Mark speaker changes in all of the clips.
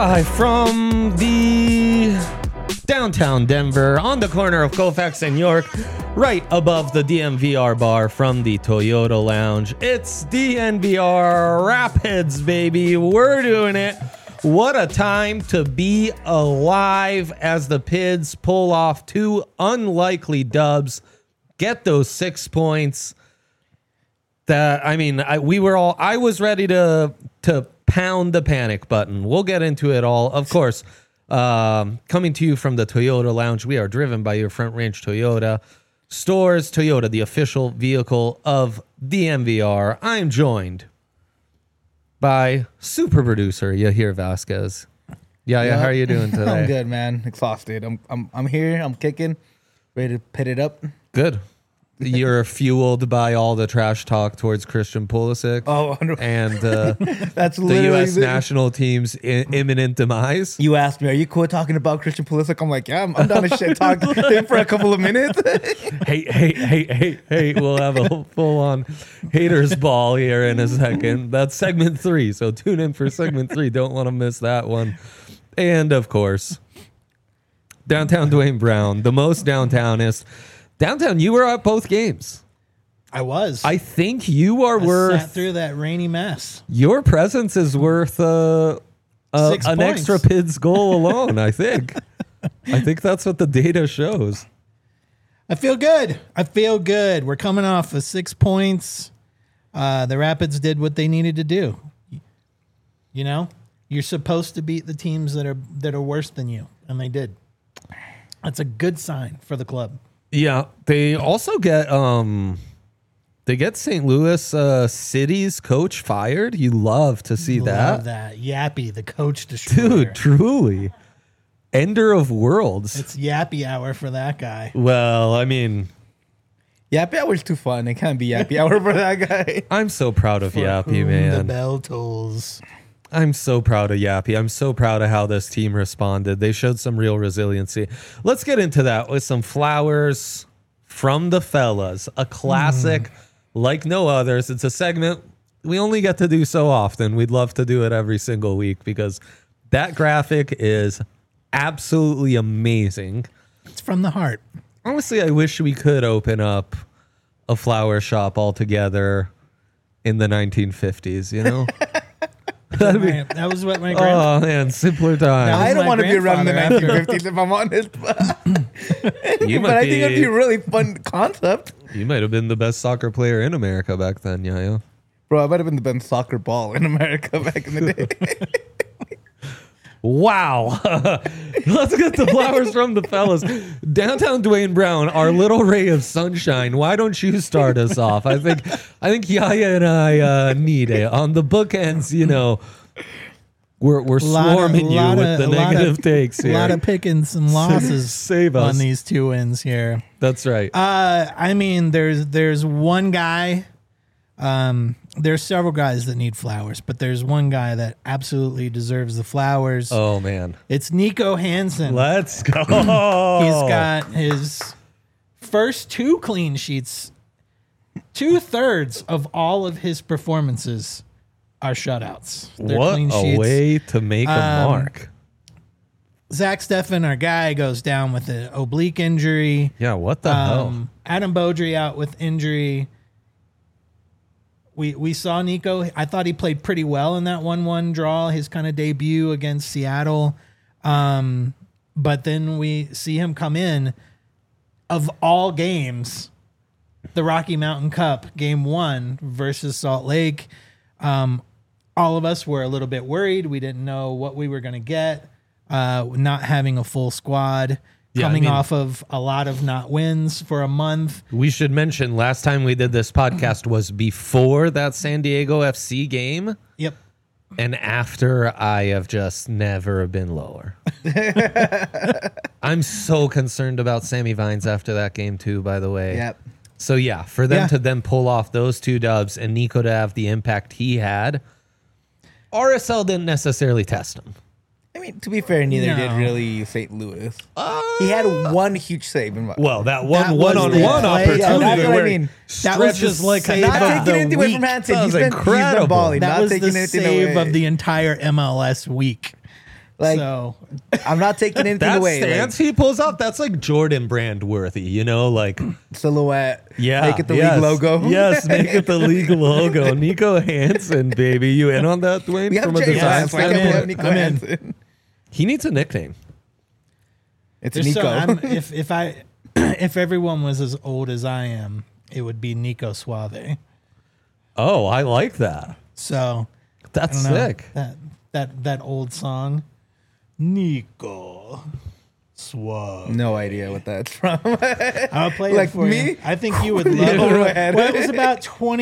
Speaker 1: Live from the downtown Denver on the corner of Colfax and York, right above the DNVR bar from the Toyota Lounge. It's DNVR Rapids, baby. We're doing it. What a time to be alive as the Pids pull off two unlikely dubs, get those 6 points. I was ready to pound the panic button. We'll get into it all. Of course, coming to you from the Toyota Lounge, we are driven by your Front Range Toyota stores. Toyota, the official vehicle of DNVR. I'm joined by super producer Yahir Vasquez. Yeah, how are you doing today?
Speaker 2: I'm good, man. Exhausted. I'm here. I'm kicking, ready to pit it up.
Speaker 1: Good. You're fueled by all the trash talk towards Christian Pulisic.
Speaker 2: Oh,
Speaker 1: and
Speaker 2: that's
Speaker 1: the U.S. national team's imminent demise.
Speaker 2: You asked me, are you cool talking about Christian Pulisic? I'm like, yeah, I'm down to shit talk him for a couple of minutes.
Speaker 1: Hey, we'll have a full-on haters ball here in a second. That's segment 3, so tune in for segment 3. Don't want to miss that one. And, of course, downtown Dwayne Brown, the most downtownist. Downtown, you were at both games.
Speaker 3: I was.
Speaker 1: I think you are worth...
Speaker 3: sat through that rainy mess.
Speaker 1: Your presence is worth
Speaker 3: 6
Speaker 1: an
Speaker 3: points.
Speaker 1: extra Pids goal alone, I think. I think that's what the data shows.
Speaker 3: I feel good. We're coming off of 6 points. The Rapids did what they needed to do. You know, you're supposed to beat the teams that are worse than you, and they did. That's a good sign for the club.
Speaker 1: Yeah, they also get St. Louis City's coach fired. You love to see
Speaker 3: Love that. Yappy, the coach destroyer.
Speaker 1: Dude, truly. Ender of worlds.
Speaker 3: It's Yappy hour for that guy.
Speaker 1: Well, I mean...
Speaker 2: Yappy hour's too fun. It can't be Yappy hour for that guy.
Speaker 1: I'm so proud of Yappy, man.
Speaker 3: The bell tolls.
Speaker 1: I'm so proud of Yappy. I'm so proud of how this team responded. They showed some real resiliency. Let's get into that with some flowers from the fellas. A classic like no others. It's a segment we only get to do so often. We'd love to do it every single week because that graphic is absolutely amazing.
Speaker 3: It's from the heart.
Speaker 1: Honestly, I wish we could open up a flower shop altogether in the 1950s, you know?
Speaker 3: That was what my grandpa...
Speaker 1: Oh, man, simpler times.
Speaker 2: I don't want to be around in the
Speaker 3: grandfather
Speaker 2: 1950s if I'm honest. But I think
Speaker 1: be-
Speaker 2: it'd be a really fun concept.
Speaker 1: You might have been the best soccer player in America back then, Yayo.
Speaker 2: Bro, I might have been the best soccer ball in America back in the day.
Speaker 1: Wow. Let's get the flowers from the fellas. Downtown Dwayne Brown, our little ray of sunshine. Why don't you start us off? I think Yaya and I need it. On the bookends, you know, we're swarming you with the negative takes here.
Speaker 3: A lot of picking some losses
Speaker 1: Save us.
Speaker 3: on these 2 wins here.
Speaker 1: That's right.
Speaker 3: I mean, there's one guy. There's several guys that need flowers, but there's one guy that absolutely deserves the flowers.
Speaker 1: Oh, man.
Speaker 3: It's Nico Hansen.
Speaker 1: Let's go.
Speaker 3: He's got his first 2 clean sheets. 2/3 of all of his performances are shutouts. They're
Speaker 1: What
Speaker 3: clean
Speaker 1: a
Speaker 3: sheets.
Speaker 1: way to make a mark.
Speaker 3: Zach Steffen, our guy, goes down with an oblique injury.
Speaker 1: Yeah, what the hell?
Speaker 3: Adam Beaudry out with injury. We saw Nico. I thought he played pretty well in that 1-1 draw, his kind of debut against Seattle. But then we see him come in, of all games, the Rocky Mountain Cup, game 1 versus Salt Lake. All of us were a little bit worried. We didn't know what we were going to get, not having a full squad.
Speaker 1: Yeah,
Speaker 3: Coming off of a lot of not wins for a month.
Speaker 1: We should mention last time we did this podcast was before that San Diego FC game.
Speaker 3: Yep.
Speaker 1: And after, I have just never been lower. I'm so concerned about Sammy Vines after that game too, by the way.
Speaker 2: Yep.
Speaker 1: So yeah, for them to then pull off those 2 dubs and Nico to have the impact he had, RSL didn't necessarily test him.
Speaker 2: I mean, to be fair, neither did really St. Louis. He had one huge save.
Speaker 1: Well, that
Speaker 3: was
Speaker 1: one-on-one
Speaker 3: the play.
Speaker 1: opportunity.
Speaker 2: Yeah, that's what I
Speaker 1: where
Speaker 2: mean.
Speaker 3: That was just like
Speaker 2: Not
Speaker 3: of
Speaker 2: taking
Speaker 3: the
Speaker 2: anything away
Speaker 3: week.
Speaker 2: from Hansen.
Speaker 1: That
Speaker 2: He's
Speaker 1: was
Speaker 2: been
Speaker 1: incredible.
Speaker 2: balling.
Speaker 3: That
Speaker 2: Not
Speaker 3: was
Speaker 2: taking
Speaker 3: the
Speaker 2: anything
Speaker 3: save
Speaker 2: away.
Speaker 3: of the entire MLS week.
Speaker 2: Like,
Speaker 3: So
Speaker 2: I'm not taking anything
Speaker 1: That
Speaker 2: away.
Speaker 1: stance he pulls off, that's like Jordan brand worthy, you know, like
Speaker 2: Silhouette.
Speaker 1: yeah,
Speaker 2: Make it the
Speaker 1: yes,
Speaker 2: league logo.
Speaker 1: Yes, make it the league logo. Nico Hansen, baby, you in on that, Dwayne?
Speaker 2: We have
Speaker 1: From a
Speaker 2: Jay
Speaker 1: design
Speaker 2: Lance. Why can't we
Speaker 1: standpoint?
Speaker 2: have Nico
Speaker 3: I'm in.
Speaker 2: Hansen?
Speaker 1: He needs a nickname.
Speaker 2: It's
Speaker 3: Just
Speaker 2: Nico.
Speaker 3: so if everyone was as old as I am, it would be Nico Suave.
Speaker 1: Oh, I like that.
Speaker 3: So
Speaker 1: That's
Speaker 3: I don't know,
Speaker 1: sick.
Speaker 3: that old song, Nico Suave.
Speaker 2: No idea what that's from.
Speaker 3: I'll play
Speaker 2: Like
Speaker 3: it for
Speaker 2: me?
Speaker 3: you. I think you would love
Speaker 2: Go
Speaker 3: it.
Speaker 2: ahead.
Speaker 3: Well, it was about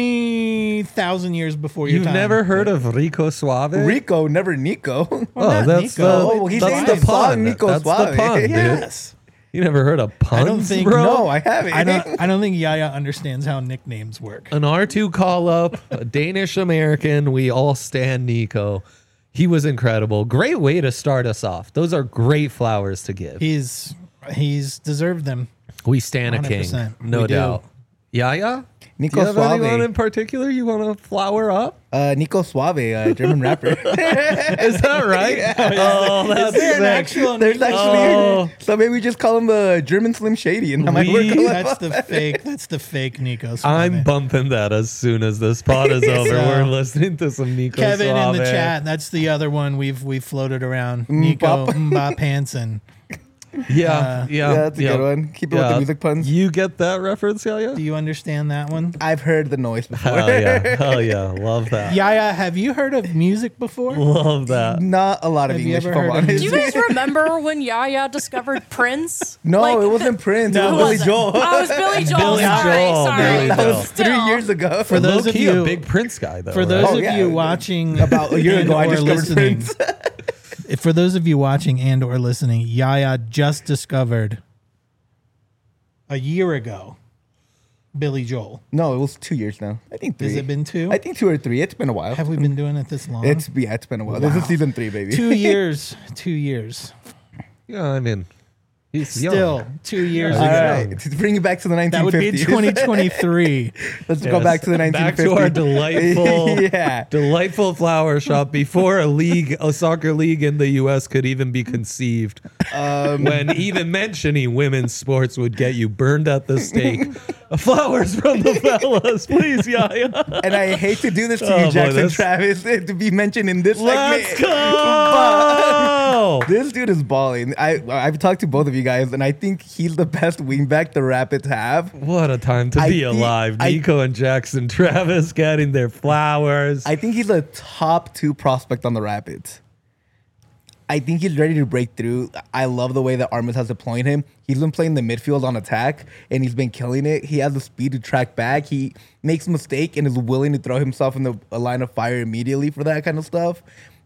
Speaker 3: 20,000 years before your
Speaker 1: You've
Speaker 3: time.
Speaker 1: never heard of Rico Suave?
Speaker 2: Rico, never Nico.
Speaker 3: not
Speaker 1: that's
Speaker 3: Nico.
Speaker 1: the,
Speaker 3: Oh,
Speaker 2: well, he's
Speaker 1: that's
Speaker 2: saying
Speaker 1: the
Speaker 2: the song
Speaker 1: pun.
Speaker 2: Nico
Speaker 1: That's
Speaker 2: Suave.
Speaker 1: the pun, dude.
Speaker 3: Yes.
Speaker 1: You never heard of puns,
Speaker 3: I don't think-
Speaker 1: bro?
Speaker 2: No, I haven't.
Speaker 3: I don't think Yaya understands how nicknames work.
Speaker 1: An R2 call up, a Danish American. We all stand Nico. He was incredible. Great way to start us off. Those are great flowers to give.
Speaker 3: He's deserved them.
Speaker 1: We stand a king,
Speaker 3: 100%.
Speaker 1: no
Speaker 3: We do.
Speaker 1: doubt. Yaya?
Speaker 2: Nico
Speaker 1: Do you have
Speaker 2: Suave.
Speaker 1: anyone in particular you want to flower up?
Speaker 2: Nico Suave, German rapper.
Speaker 1: Is that right? Oh, that's
Speaker 3: Is there an
Speaker 1: sick.
Speaker 3: actual
Speaker 2: There's
Speaker 3: Nico?
Speaker 2: actually so maybe we just call him German Slim Shady, and that might work.
Speaker 3: That's the fake Nico Suave.
Speaker 1: I'm bumping that as soon as this pod is over.
Speaker 3: So-
Speaker 1: We're listening to some Nico
Speaker 3: Kevin
Speaker 1: Suave.
Speaker 3: in the chat. That's the other one we've floated around. Nico Mbop Hansen.
Speaker 1: Yeah,
Speaker 2: Yeah, that's a good one. Keep it with the music puns.
Speaker 1: You get that reference, Yaya?
Speaker 3: Do you understand that one?
Speaker 2: I've heard the noise before.
Speaker 1: Hell yeah. Love that.
Speaker 3: Yaya, have you heard of music before?
Speaker 1: Love that.
Speaker 2: Not a lot of
Speaker 3: Have you
Speaker 2: English,
Speaker 3: ever
Speaker 2: if I'm
Speaker 3: heard of-
Speaker 2: honest.
Speaker 4: Do you guys remember when Yaya discovered Prince?
Speaker 2: No,
Speaker 4: Like,
Speaker 2: it wasn't Prince.
Speaker 3: No,
Speaker 2: it
Speaker 4: who
Speaker 2: was Billy
Speaker 4: was it?
Speaker 2: Joel.
Speaker 4: Oh, it was Billy Joel.
Speaker 1: Billy
Speaker 4: sorry,
Speaker 1: Joel,
Speaker 4: sorry.
Speaker 1: Billy
Speaker 2: That
Speaker 1: Joel.
Speaker 2: was
Speaker 4: Still.
Speaker 2: 3 years ago.
Speaker 3: For those of
Speaker 1: Low-key
Speaker 3: you,
Speaker 1: a big Prince guy, though.
Speaker 3: for those
Speaker 1: right?
Speaker 2: Oh,
Speaker 3: of
Speaker 2: yeah.
Speaker 3: you watching
Speaker 2: About a year
Speaker 3: and
Speaker 2: ago, I
Speaker 3: or
Speaker 2: discovered
Speaker 3: listening,
Speaker 2: Prince.
Speaker 3: for those of you watching and or listening, Yaya just discovered a year ago Billy Joel.
Speaker 2: No, it was 2 years now. I think 3.
Speaker 3: Has it been 2?
Speaker 2: I think 2 or 3. It's been a while.
Speaker 3: Have we been doing it this long?
Speaker 2: It's been a while. This is season 3, baby.
Speaker 3: 2 years. 2 years.
Speaker 1: Yeah, I mean, he's
Speaker 3: Still
Speaker 1: young.
Speaker 3: 2 years
Speaker 2: All
Speaker 3: ago.
Speaker 2: right, to bring it back to the 1950s.
Speaker 3: That would be 2023.
Speaker 2: Let's go back to the 1950s.
Speaker 1: Back to our delightful,
Speaker 2: Yeah.
Speaker 1: delightful flower shop before a soccer league in the U.S. could even be conceived. When even mentioning women's sports would get you burned at the stake. Flowers from the fellas, please, Yaya.
Speaker 2: And I hate to do this to
Speaker 1: Oh,
Speaker 2: you,
Speaker 1: boy,
Speaker 2: Jackson
Speaker 1: this-
Speaker 2: Travis, to be mentioned in this
Speaker 1: Let's
Speaker 2: segment.
Speaker 1: go.
Speaker 2: This dude is balling. I've talked to both of you guys, and I think he's the best wingback the Rapids have.
Speaker 1: What a time to
Speaker 2: I
Speaker 1: be
Speaker 2: think-
Speaker 1: alive. Nico and Jackson Travis getting their flowers.
Speaker 2: I think he's a top 2 prospect on the Rapids. I think he's ready to break through. I love the way that Armas has deployed him. He's been playing the midfield on attack, and he's been killing it. He has the speed to track back. He makes a mistake and is willing to throw himself in a line of fire immediately for that kind of stuff.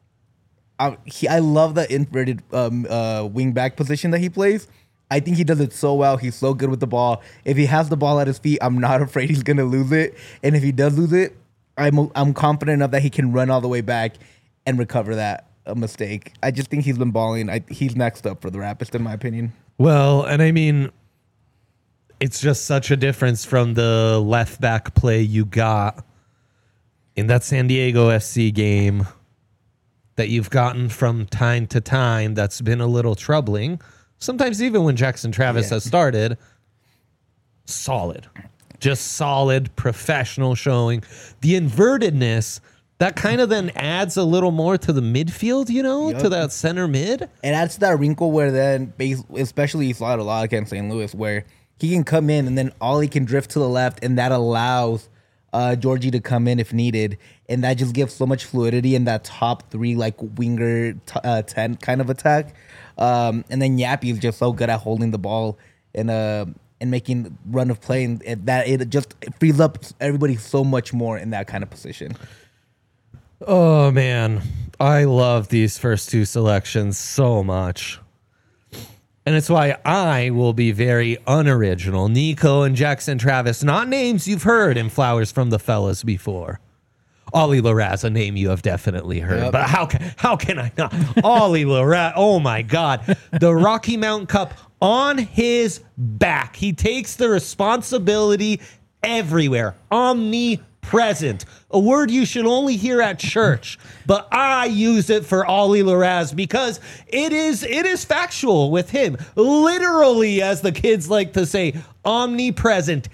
Speaker 2: I love the inverted wing back position that he plays. I think he does it so well. He's so good with the ball. If he has the ball at his feet, I'm not afraid he's going to lose it. And if he does lose it, I'm confident enough that he can run all the way back and recover that mistake. I just think he's been balling. He's next up for the Rapids, in my opinion.
Speaker 1: Well, and I mean, it's just such a difference from the left back play you got in that San Diego SC game that you've gotten from time to time that's been a little troubling. Sometimes even when Jackson Travis has started, solid. Just solid, professional showing. The invertedness, that kind of then adds a little more to the midfield, you know, to that center mid.
Speaker 2: It adds to that wrinkle where then, especially you saw it a lot against St. Louis, where he can come in and then all he can drift to the left, and that allows Georgie to come in if needed, and that just gives so much fluidity in that top 3 like winger 10 kind of attack. And then Yappy is just so good at holding the ball and making run of play, and that it just frees up everybody so much more in that kind of position.
Speaker 1: Oh, man. I love these first 2 selections so much. And it's why I will be very unoriginal. Nico and Jackson Travis, not names you've heard in Flowers from the Fellas before. Ollie Larraz, a name you have definitely heard.
Speaker 2: Yep.
Speaker 1: But how can I not? Ollie Larraz, oh my God. The Rocky Mountain Cup on his back. He takes the responsibility everywhere, omnipresent, a word you should only hear at church, but I use it for Ollie Larraz because it is factual with him. Literally, as the kids like to say, omnipresent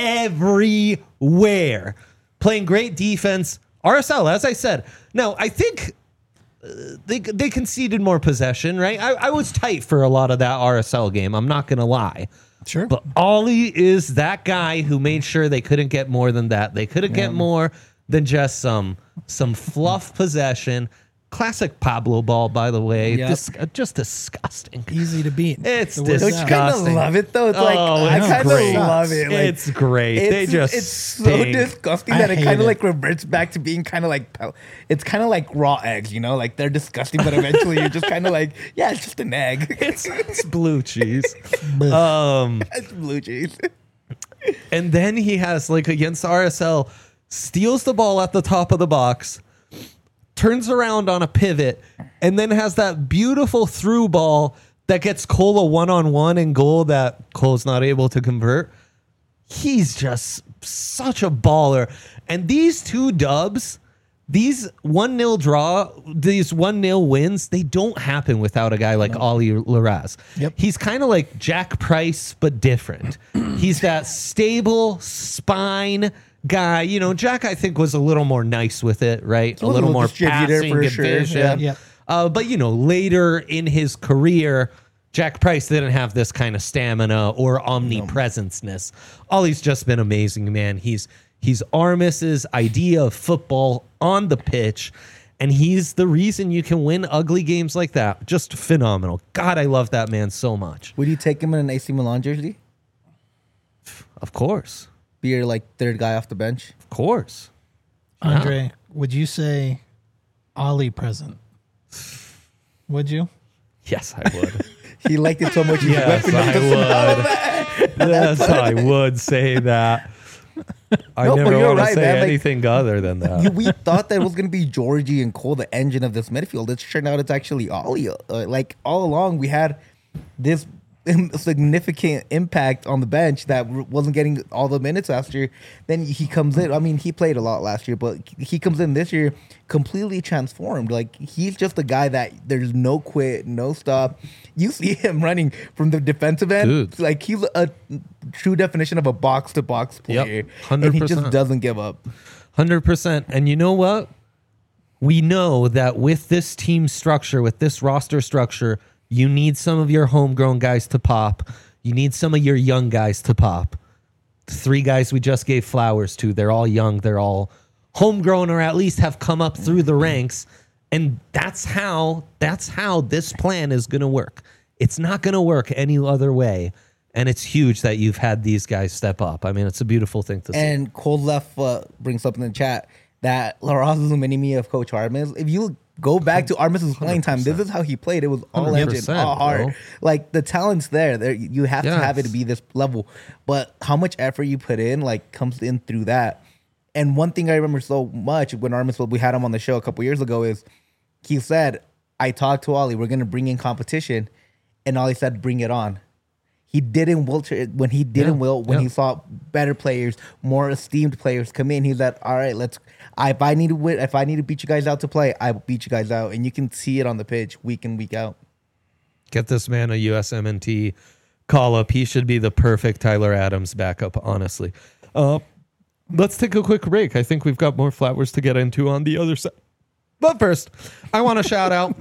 Speaker 1: everywhere. Playing great defense. RSL, as I said. Now, I think they conceded more possession, right? I was tight for a lot of that RSL game. I'm not going to lie.
Speaker 3: Sure.
Speaker 1: But Ollie is that guy who made sure they couldn't get more than that. They couldn't get more than just some fluff possession. Classic Pablo ball, by the way.
Speaker 2: Yep.
Speaker 1: Just disgusting.
Speaker 3: Easy to beat.
Speaker 1: It's
Speaker 3: The word
Speaker 2: Don't
Speaker 3: is
Speaker 2: you
Speaker 3: out.
Speaker 2: kind of
Speaker 1: disgusting.
Speaker 2: love it though? It's like
Speaker 1: Oh,
Speaker 2: I
Speaker 1: it's
Speaker 2: kind of
Speaker 1: great.
Speaker 2: love it. Like,
Speaker 1: It's great. They just
Speaker 2: it's so
Speaker 1: stink.
Speaker 2: disgusting
Speaker 3: I
Speaker 2: that it
Speaker 3: hate
Speaker 2: kind
Speaker 3: it.
Speaker 2: of like reverts back to being kind of like it's kind of like raw eggs, you know? Like they're disgusting, but eventually you're just kind of like, yeah, it's just an egg.
Speaker 1: It's blue cheese.
Speaker 2: It's blue cheese.
Speaker 1: And then he has, like, against RSL, steals the ball at the top of the box, turns around on a pivot, and then has that beautiful through ball that gets Cole a one-on-one in goal that Cole's not able to convert. He's just such a baller. And these two dubs, these 1-0 draw, these 1-0 wins, they don't happen without a guy like Ollie Larraz.
Speaker 3: Yep.
Speaker 1: He's kind of like Jack Price, but different. He's that stable spine guy. You know, Jack, I think, was a little more nice with it, right? A little more
Speaker 2: distributor
Speaker 1: passing
Speaker 2: for
Speaker 1: and
Speaker 2: sure.
Speaker 1: vision.
Speaker 3: Yep.
Speaker 1: But, you know, later in his career, Jack Price didn't have this kind of stamina or omnipresence-ness. Ollie's just been amazing, man. He's Armis's idea of football on the pitch, and he's the reason you can win ugly games like that. Just phenomenal. God, I love that man so much.
Speaker 2: Would you take him in an AC Milan jersey?
Speaker 1: Of course.
Speaker 2: Be your like third guy off the bench?
Speaker 1: Of course.
Speaker 3: Andre, would you say Ollie present? Would you?
Speaker 1: Yes, I would.
Speaker 2: He liked it so much. He's
Speaker 1: Yes,
Speaker 2: whipping up the smell of it.
Speaker 1: Yes, I would say that. I
Speaker 2: No, but
Speaker 1: never
Speaker 2: you're
Speaker 1: want to
Speaker 2: right,
Speaker 1: say
Speaker 2: man. Like,
Speaker 1: anything other than that.
Speaker 2: We thought that it was going to be Georgie and Cole, the engine of this midfield. It turned out it's actually Ollie. Like all along, we had this significant impact on the bench that wasn't getting all the minutes last year. Then he comes in. I mean, he played a lot last year, but he comes in this year completely transformed. Like he's just a guy that there's no quit, no stop. You see him running from the defensive end.
Speaker 1: Dude.
Speaker 2: Like he's a true definition of a box to box player.
Speaker 1: 100%.
Speaker 2: And he just doesn't give up.
Speaker 1: 100%. And you know what? We know that with this team structure, with this roster structure, you need some of your homegrown guys to pop. You need some of your young guys to pop. The 3 guys we just gave flowers to, they're all young. They're all homegrown or at least have come up through the ranks. And that's how this plan is going to work. It's not going to work any other way. And it's huge that you've had these guys step up. I mean, it's a beautiful thing to see.
Speaker 2: And Cold Left brings up in the chat that Larraz is a mini-me of Coach Armis. If you go back to Armis's playing time, this is how he played. It was all engine,
Speaker 1: 100%,
Speaker 2: all heart.
Speaker 1: bro.
Speaker 2: Like the talent's there. There, you have to have it to
Speaker 1: Yes.
Speaker 2: be this level. But how much effort you put in, like, comes in through that. And one thing I remember so much when Armis, we had him on the show a couple years ago, is he said, "I talked to Ollie. We're gonna bring in competition," and Ollie said, "Bring it on." He didn't wilt when he didn't wilt when he saw better players, more esteemed players come in. He's like, "All right, let's. If I need to win, if I need to beat you guys out to play, I will beat you guys out." And you can see it on the pitch week in, week out.
Speaker 1: Get this man a USMNT call up. He should be the perfect Tyler Adams backup, honestly. Let's take a quick break. I think we've got more flowers to get into on the other side. But first, I want to shout out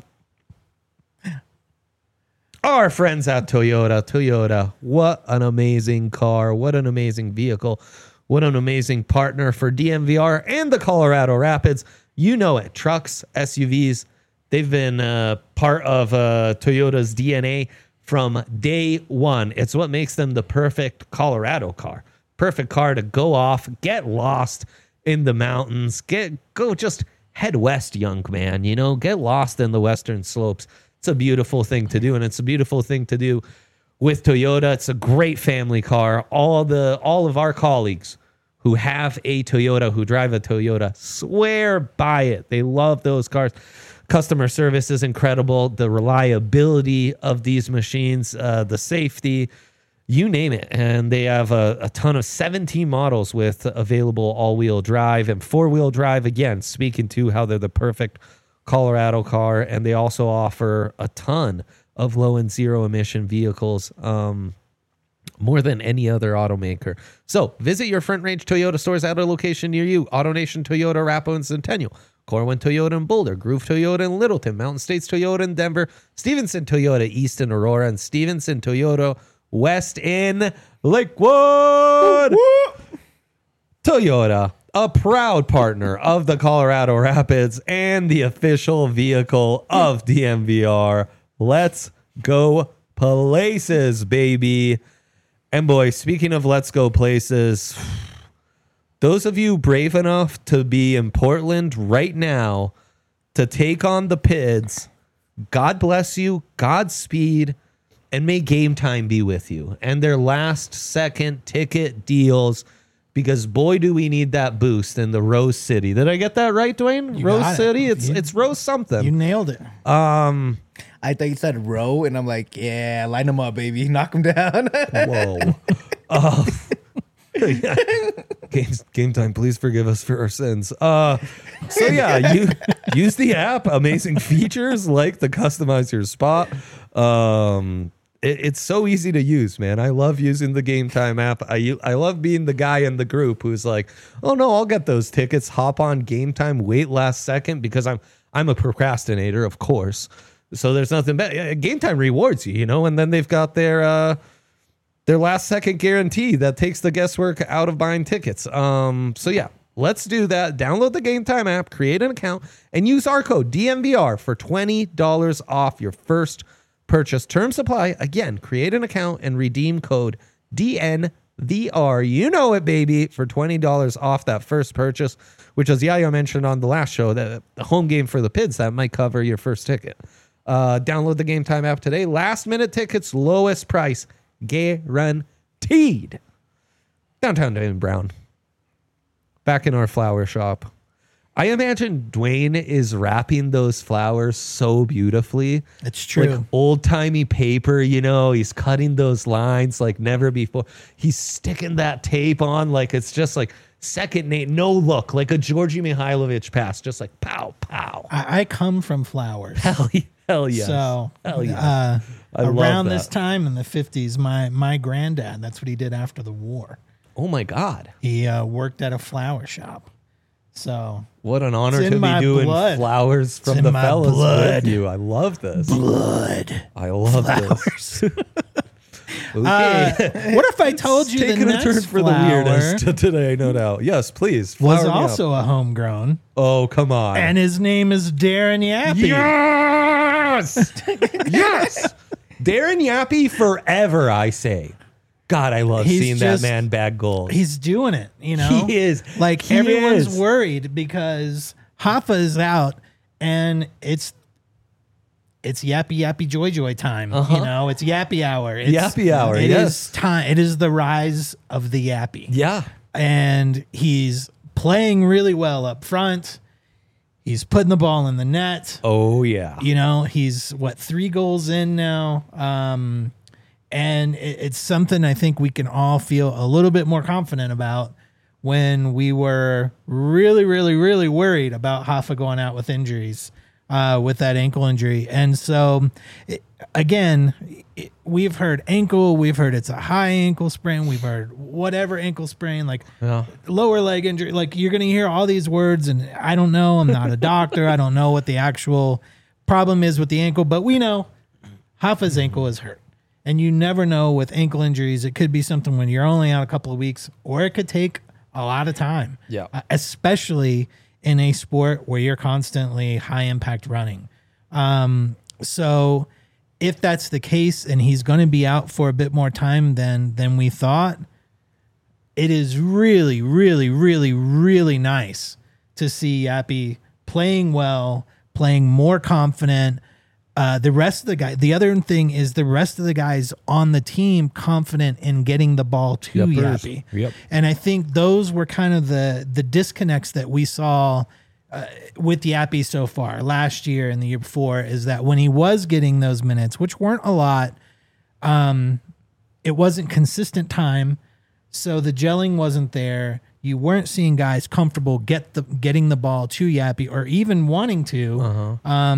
Speaker 1: our friends at Toyota. Toyota, what an amazing car. What an amazing vehicle. What an amazing partner for DMVR and the Colorado Rapids. You know it. Trucks, SUVs, they've been part of Toyota's DNA from day one. It's what makes them the perfect Colorado car. Perfect car to go off, get lost in the mountains, go just head west, young man, you know, get lost in the western slopes. It's a beautiful thing to do, and it's a beautiful thing to do with Toyota. It's a great family car. All of our colleagues who have a Toyota, who drive a Toyota, swear by it. They love those cars. Customer service is incredible. The reliability of these machines, the safety, you name it. And they have a ton of 17 models with available all-wheel drive and four-wheel drive. Again, speaking to how they're the perfect Colorado car. And they also offer a ton of low and zero emission vehicles, more than any other automaker. So visit your Front Range Toyota stores at a location near you. AutoNation Toyota, Arapahoe and Centennial, Corwin Toyota in Boulder, Groove Toyota in Littleton, Mountain States Toyota in Denver, Stevenson Toyota East in Aurora, and Stevenson Toyota West in Lakewood. Toyota, a proud partner of the Colorado Rapids and the official vehicle of DNVR. Let's go places, baby. And boy, speaking of let's go places, those of you brave enough to be in Portland right now to take on the Pids, God bless you, Godspeed, and may Game Time be with you. And their last second ticket deals, because boy, do we need that boost in the Rose City. Did I get that right, Dwayne?
Speaker 3: You
Speaker 1: Rose
Speaker 3: got it.
Speaker 1: City? It's Rose something.
Speaker 3: You nailed it.
Speaker 2: I thought you said row, and I'm like, yeah, line them up, baby. Knock them down.
Speaker 1: Whoa. Yeah. Game Time, please forgive us for our sins. So yeah, you use the app. Amazing features like the customize your spot. It's so easy to use, man. I love using the Game Time app. I love being the guy in the group who's like, oh no, I'll get those tickets. Hop on Game Time, wait last second, because I'm a procrastinator, of course. So there's nothing better. Game Time rewards you, and then they've got their last second guarantee that takes the guesswork out of buying tickets. So yeah, let's do that. Download the Game Time app, create an account, and use our code DNVR for $20 off your first purchase. Terms apply. Again, create an account and redeem code DNVR. You know it, baby, for $20 off that first purchase, which, as Yaya mentioned on the last show, that the home game for the Pids, that might cover your first ticket. Download the Game Time app today. Last minute tickets, lowest price guaranteed. Downtown Dwayne Brown, back in our flower shop. I imagine Dwayne is wrapping those flowers so beautifully.
Speaker 3: It's true.
Speaker 1: Like old-timey paper, he's cutting those lines like never before. He's sticking that tape on like it's just like second name, no look, like a Georgi Mihailovic pass, just like pow, pow.
Speaker 3: I come from flowers.
Speaker 1: Hell yes.
Speaker 3: So
Speaker 1: Hell yes. I love
Speaker 3: around
Speaker 1: that.
Speaker 3: this time in the 50s, my granddad, that's what he did after the war.
Speaker 1: Oh my God.
Speaker 3: He worked at a flower shop. So
Speaker 1: What an honor
Speaker 3: It's in
Speaker 1: to be
Speaker 3: my
Speaker 1: doing
Speaker 3: blood.
Speaker 1: flowers from
Speaker 3: in
Speaker 1: the
Speaker 3: my
Speaker 1: fellas
Speaker 3: blood.
Speaker 1: with you. I love this.
Speaker 3: blood.
Speaker 1: I love this. Okay.
Speaker 3: What if I told you the
Speaker 1: Taking a
Speaker 3: next
Speaker 1: turn for the
Speaker 3: flower
Speaker 1: weirdest today, no doubt. Yes, please.
Speaker 3: was
Speaker 1: flower me up.
Speaker 3: also a homegrown,
Speaker 1: Oh, come on.
Speaker 3: and his name is Darren Yappy.
Speaker 1: Yes! Yes! Darren Yappy forever, I say. God, I love
Speaker 3: He's
Speaker 1: seeing
Speaker 3: just-
Speaker 1: that man bag goals.
Speaker 3: He's doing it,
Speaker 1: He is.
Speaker 3: Like
Speaker 1: He
Speaker 3: everyone's
Speaker 1: is.
Speaker 3: worried because Hoffa is out, and it's yappy joy time. It's yappy hour. It's,
Speaker 1: Yappy hour,
Speaker 3: It
Speaker 1: yes.
Speaker 3: is time. It is the rise of the yappy.
Speaker 1: Yeah.
Speaker 3: And he's playing really well up front. He's putting the ball in the net.
Speaker 1: Oh, yeah.
Speaker 3: He's 3 goals in now. And it's something I think we can all feel a little bit more confident about when we were really, really, really worried about Hoffa going out with injuries, with that ankle injury. And so, we've heard ankle, we've heard it's a high ankle sprain, we've heard whatever ankle sprain, like lower leg injury. Like you're going to hear all these words, and I don't know. I'm not a doctor. I don't know what the actual problem is with the ankle, but we know Hoffa's ankle is hurt. And you never know with ankle injuries. It could be something when you're only out a couple of weeks, or it could take a lot of time.
Speaker 1: Yeah.
Speaker 3: Especially in a sport where you're constantly high impact running. So if that's the case and he's going to be out for a bit more time than we thought, it is really, really, really, really nice to see Yappy playing well, playing more confident. The rest of the guys, the other thing is the rest of the guys on the team confident in getting the ball to Yappy.
Speaker 1: Yep.
Speaker 3: And I think those were kind of the disconnects that we saw with Yappy so far last year and the year before, is that when he was getting those minutes, which weren't a lot, it wasn't consistent time, so the gelling wasn't there. You weren't seeing guys comfortable getting the ball to Yappy or even wanting to.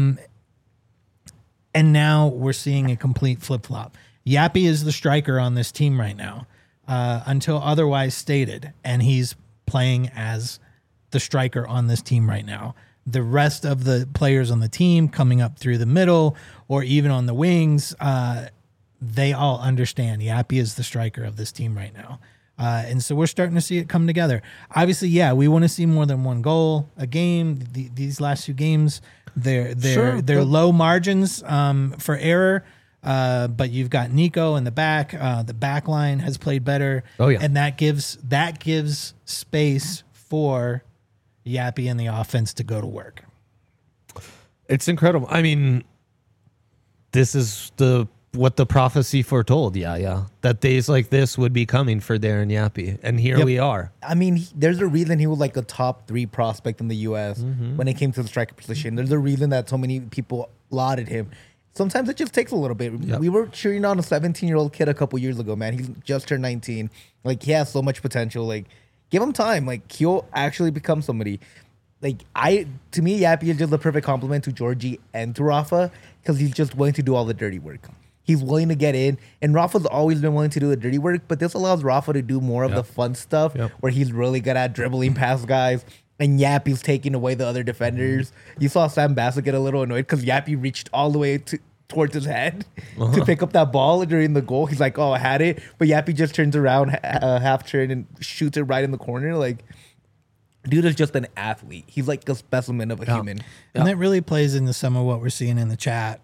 Speaker 3: And now we're seeing a complete flip-flop. Yappy is the striker on this team right now, until otherwise stated, and he's playing as the striker on this team right now. The rest of the players on the team coming up through the middle or even on the wings, they all understand Yappy is the striker of this team right now. And so we're starting to see it come together. Obviously, yeah, we want to see more than one goal a game. These last 2 games, they're low margins for error. But you've got Nico in the back. The back line has played better.
Speaker 1: Oh, yeah.
Speaker 3: And that gives space for Yappy and the offense to go to work.
Speaker 1: It's incredible. I mean, this is what the prophecy foretold. Yeah. That days like this would be coming for Darren Yappy. And here we are.
Speaker 2: I mean, there's a reason he was like a top 3 prospect in the U.S. When it came to the striker position. There's a reason that so many people lauded him. Sometimes it just takes a little bit.
Speaker 1: Yep.
Speaker 2: We were cheering on a 17-year-old kid a couple years ago, man. He's just turned 19. Like, he has so much potential. Like, give him time. Like, he'll actually become somebody. Like, to me, Yappy is just the perfect compliment to Georgie and to Rafa because he's just willing to do all the dirty work. He's willing to get in. And Rafa's always been willing to do the dirty work, but this allows Rafa to do more of the fun stuff where he's really good at dribbling past guys. And Yappy's taking away the other defenders. You saw Sam Bassett get a little annoyed because Yappy reached all the way towards his head to pick up that ball during the goal. He's like, oh, I had it. But Yappy just turns around, half turn, and shoots it right in the corner. Like, dude is just an athlete. He's like a specimen of a human.
Speaker 3: And that really plays into some of what we're seeing in the chat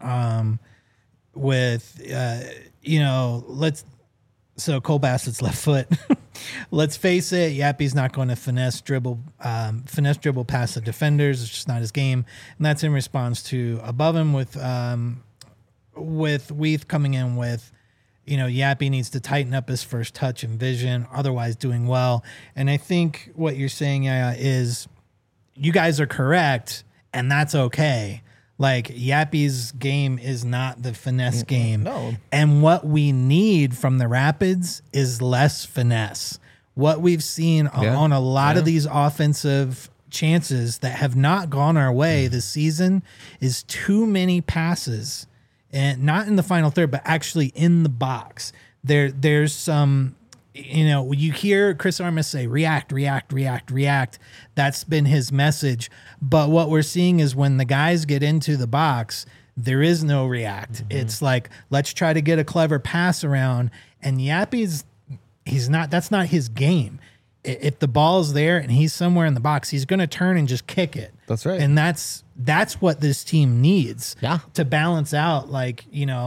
Speaker 3: so Cole Bassett's left foot. Let's face it, Yappy's not going to finesse dribble past the defenders. It's just not his game. And that's in response to above him with Weath coming in with, Yappy needs to tighten up his first touch and vision, otherwise doing well. And I think what you're saying, Yaya, is you guys are correct, and that's okay. Like, Yappy's game is not the finesse game.
Speaker 2: No.
Speaker 3: And what we need from the Rapids is less finesse. What we've seen on a lot of these offensive chances that have not gone our way this season is too many passes, and not in the final third, but actually in the box. There's some... you hear Chris Armas say, react. That's been his message. But what we're seeing is when the guys get into the box, there is no react. Mm-hmm. It's like, let's try to get a clever pass around. And Yappy's, that's not his game. If the ball's there and he's somewhere in the box, he's going to turn and just kick it.
Speaker 1: That's right.
Speaker 3: And that's what this team needs to balance out. Like,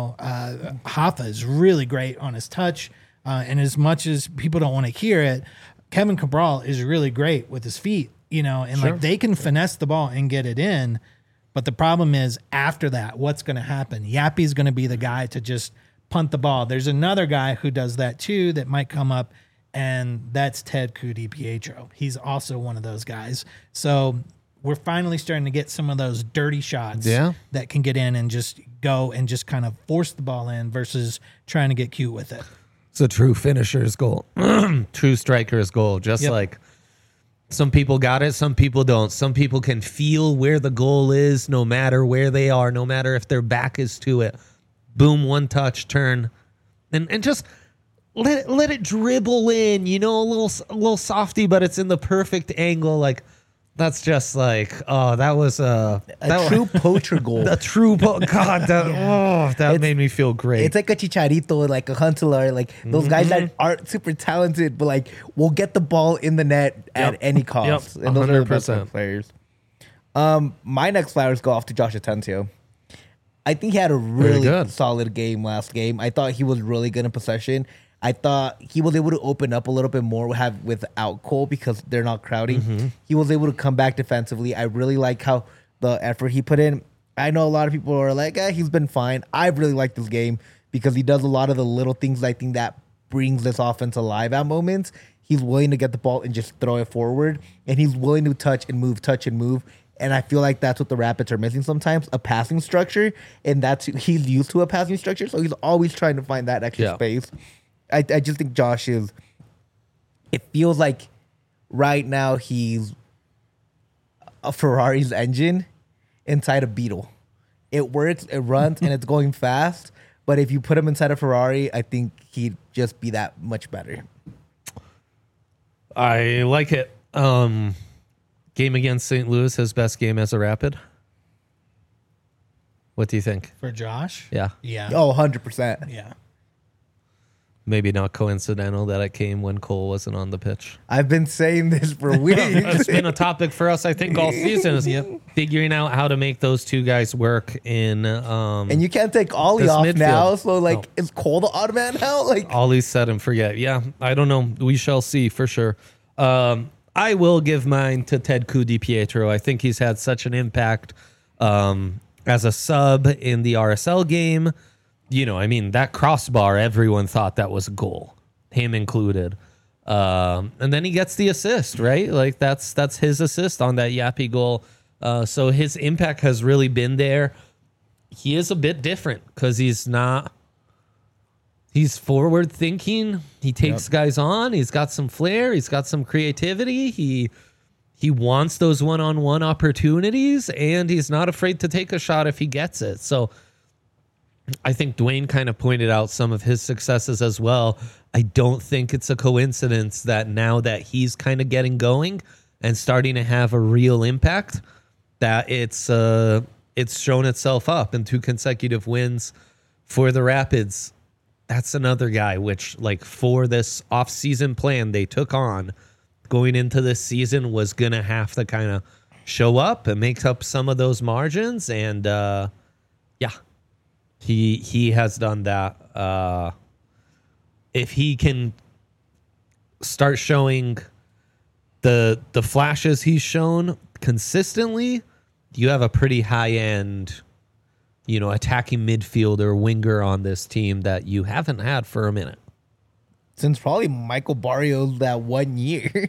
Speaker 3: Hoffa is really great on his touch. And as much as people don't want to hear it, Kevin Cabral is really great with his feet, like they can finesse the ball and get it in. But the problem is after that, what's going to happen? Yappy's going to be the guy to just punt the ball. There's another guy who does that too that might come up, and that's Ted Kudi-Pietro. He's also one of those guys. So we're finally starting to get some of those dirty shots that can get in and just go and just kind of force the ball in versus trying to get cute with it.
Speaker 1: It's a true finisher's goal, true striker's goal. Just like some people got it, some people don't. Some people can feel where the goal is, no matter where they are, no matter if their back is to it. Boom, one touch, turn, and just let it dribble in. A little softy, but it's in the perfect angle. Like, that's just like, that was a
Speaker 2: true poacher goal.
Speaker 1: A true God, that made me feel great.
Speaker 2: It's like a Chicharito, like a Huntelaar, like those guys that aren't super talented, but like will get the ball in the net at any cost. And those are the best players. My next flowers go off to Josh Atencio. I think he had a really solid game last game. I thought he was really good in possession. I thought he was able to open up a little bit more without Cole because they're not crowding. Mm-hmm. He was able to come back defensively. I really like how the effort he put in. I know a lot of people are like, he's been fine. I really like this game because he does a lot of the little things I think that brings this offense alive at moments. He's willing to get the ball and just throw it forward, and he's willing to touch and move. And I feel like that's what the Rapids are missing sometimes, a passing structure. And he's used to a passing structure, so he's always trying to find that extra space. I just think Josh is. It feels like right now he's a Ferrari's engine inside a Beetle. It works, it runs, and it's going fast. But if you put him inside a Ferrari, I think he'd just be that much better.
Speaker 1: I like it. Game against St. Louis, his best game as a Rapid. What do you think?
Speaker 3: For Josh?
Speaker 1: Yeah.
Speaker 3: Yeah.
Speaker 2: Oh, 100%.
Speaker 3: Yeah.
Speaker 1: Maybe not coincidental that it came when Cole wasn't on the pitch.
Speaker 2: I've been saying this for weeks.
Speaker 1: It's been a topic for us, I think, all season is figuring out how to make those two guys work in.
Speaker 2: And you can't take Ollie
Speaker 1: this
Speaker 2: off
Speaker 1: midfield.
Speaker 2: now. So, like,
Speaker 1: No.
Speaker 2: is Cole the odd man now? Like,
Speaker 1: Ollie set and forget. Yeah, I don't know. We shall see for sure. I will give mine to Ted Di-Pietro. I think he's had such an impact as a sub in the RSL game. You know, I mean, that crossbar, everyone thought that was a goal, him included. And then he gets the assist, right? Like that's his assist on that Yappy goal. So his impact has really been there. He is a bit different because he's forward thinking. He takes guys on. He's got some flair. He's got some creativity. He wants those one-on-one opportunities, and he's not afraid to take a shot if he gets it. So I think Dwayne kind of pointed out some of his successes as well. I don't think it's a coincidence that now that he's kind of getting going and starting to have a real impact, that it's shown itself up in 2 consecutive wins for the Rapids. That's another guy which, like, for this off-season plan they took on going into this season was going to have to kind of show up and make up some of those margins. And, He has done that. If he can start showing the flashes he's shown consistently, you have a pretty high end, attacking midfielder winger on this team that you haven't had for a minute.
Speaker 2: since probably Michael Barrios that 1 year.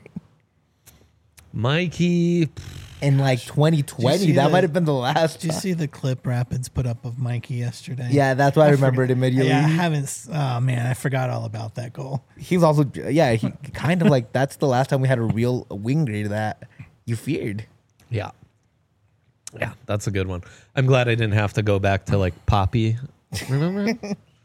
Speaker 1: Mikey,
Speaker 2: In like 2020, that might have been the last.
Speaker 3: Did you see the clip Rapids put up of Mikey yesterday?
Speaker 2: Yeah, that's why I remembered immediately.
Speaker 3: Yeah, I haven't. Oh man, I forgot all about that goal.
Speaker 2: He was also, he kind of like, that's the last time we had a real winger that you feared.
Speaker 1: yeah, that's a good one. I'm glad I didn't have to go back to like Poppy, remember?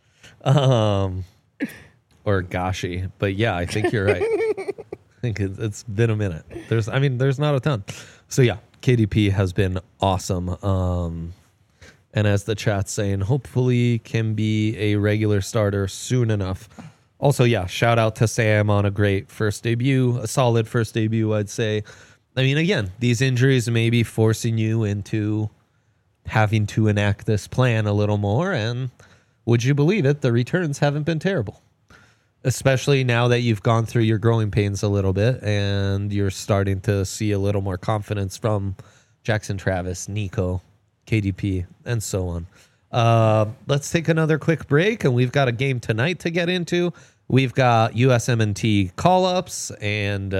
Speaker 1: Or Gashi, but yeah, I think you're right. I think it's been a minute. There's not a ton. So yeah, KDP has been awesome. And as the chat's saying, hopefully can be a regular starter soon enough. Also, yeah, shout out to Sam on a great first debut, a solid first debut, I'd say. I mean, again, these injuries may be forcing you into having to enact this plan a little more. And would you believe it? The returns haven't been terrible. Especially now that you've gone through your growing pains a little bit and you're starting to see a little more confidence from Jackson Travis, Nico, KDP, and so on. Let's take another quick break, and we've got a game tonight to get into. We've got USMNT call-ups and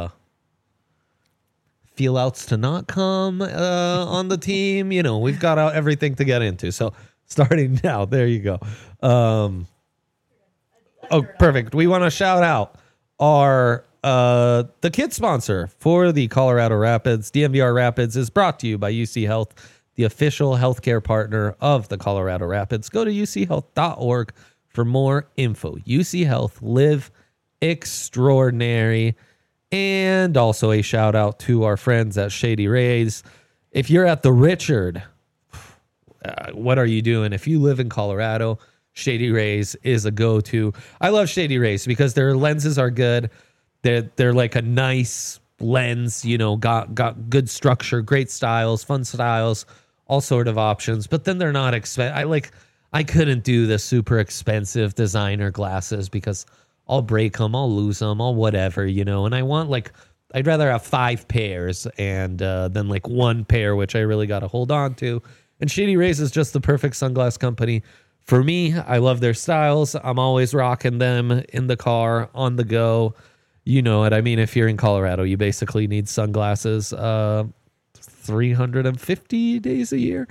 Speaker 1: feel-outs to not come on the team. You know, we've got everything to get into. So starting now, there you go. Oh, perfect. We want to shout out our the kid sponsor for the Colorado Rapids. DNVR Rapids is brought to you by UC Health, the official healthcare partner of the Colorado Rapids. Go to uchealth.org for more info. UC Health, live extraordinary. And also a shout out to our friends at Shady Rays. If you're at the Richard, what are you doing? If you live in Colorado, Shady Rays is a go-to. I love Shady Rays because their lenses are good. They're like a nice lens, you know, got good structure, great styles, fun styles, all sort of options. But then they're not expensive. I couldn't do the super expensive designer glasses because I'll break them, I'll lose them, I'll whatever, you know. And I want I'd rather have 5 pairs and than like 1 pair, which I really got to hold on to. And Shady Rays is just the perfect sunglass company. For me, I love their styles. I'm always rocking them in the car, on the go. You know what I mean? If you're in Colorado, you basically need sunglasses 350 days a year.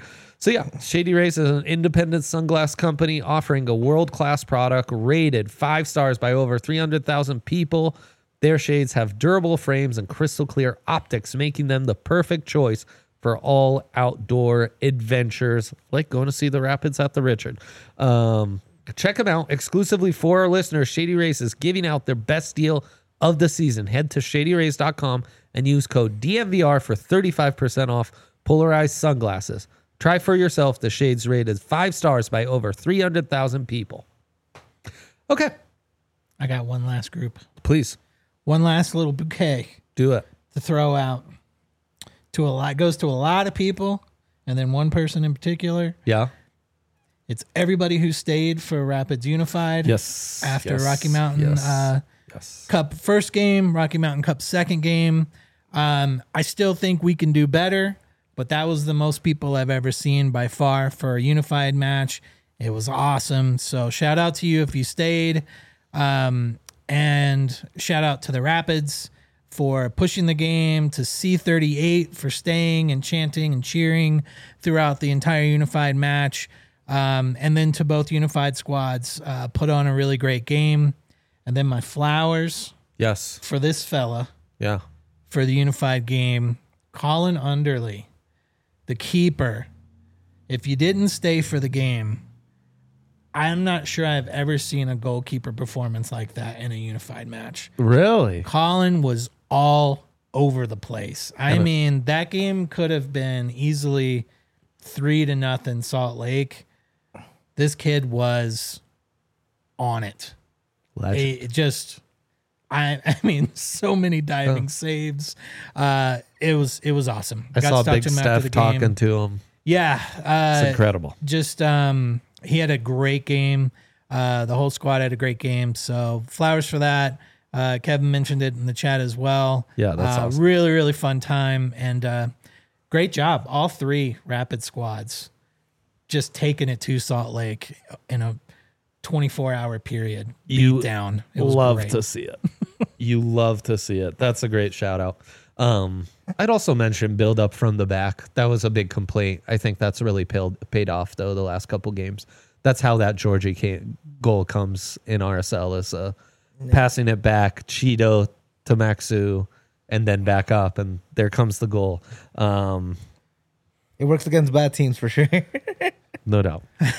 Speaker 1: So yeah, Shady Rays is an independent sunglass company offering a world-class product rated 5 stars by over 300,000 people. Their shades have durable frames and crystal clear optics, making them the perfect choice for all outdoor adventures, like going to see the Rapids at the Richard. Check them out exclusively for our listeners. Shady Rays is giving out their best deal of the season. Head to shadyrays.com and use code DMVR for 35% off polarized sunglasses. Try for yourself the shades rated 5 stars by over 300,000 people. Okay,
Speaker 3: I got one last group.
Speaker 1: please
Speaker 3: One last little bouquet
Speaker 1: do it.
Speaker 3: to throw out to a lot. Goes to a lot of people, and then one person in particular.
Speaker 1: Yeah.
Speaker 3: It's everybody who stayed for Rapids Unified.
Speaker 1: Yes.
Speaker 3: After
Speaker 1: Yes.
Speaker 3: Rocky Mountain
Speaker 1: Yes.
Speaker 3: Cup first game, Rocky Mountain Cup second game. I still think we can do better, but that was the most people I've ever seen by far for a unified match. It was awesome. So shout out to you if you stayed. And shout out to the Rapids for pushing the game, to C38 for staying and chanting and cheering throughout the entire unified match. And then to both unified squads, put on a really great game. And then my flowers
Speaker 1: Yes.
Speaker 3: for this fella
Speaker 1: Yeah.
Speaker 3: for the unified game, Colin Underley, the keeper. If you didn't stay for the game, I'm not sure I've ever seen a goalkeeper performance like that in a unified match.
Speaker 1: Really?
Speaker 3: Colin was all over the place. I mean, that game could have been easily 3-0 Salt Lake. This kid was on it.
Speaker 1: Legend.
Speaker 3: It just, I mean, so many diving saves. It was awesome.
Speaker 1: I saw
Speaker 3: to talk
Speaker 1: Big
Speaker 3: to him after the
Speaker 1: Steph talking
Speaker 3: game.
Speaker 1: to him.
Speaker 3: Yeah,
Speaker 1: It's incredible.
Speaker 3: just he had a great game. The whole squad had a great game. So flowers for that. Kevin mentioned it in the chat as well.
Speaker 1: Yeah, that's awesome.
Speaker 3: Really, really fun time and great job. All 3 Rapid squads just taking it to Salt Lake in a 24-hour period.
Speaker 1: You
Speaker 3: Beat down. It was
Speaker 1: love
Speaker 3: great.
Speaker 1: to see it. You love to see it. That's a great shout out. I'd also mention build up from the back. That was a big complaint. I think that's really paid off though the last couple games. That's how that Georgie goal comes in RSL is passing it back, Cheeto to Maxu, and then back up, and there comes the goal.
Speaker 2: It works against bad teams for sure.
Speaker 1: No doubt.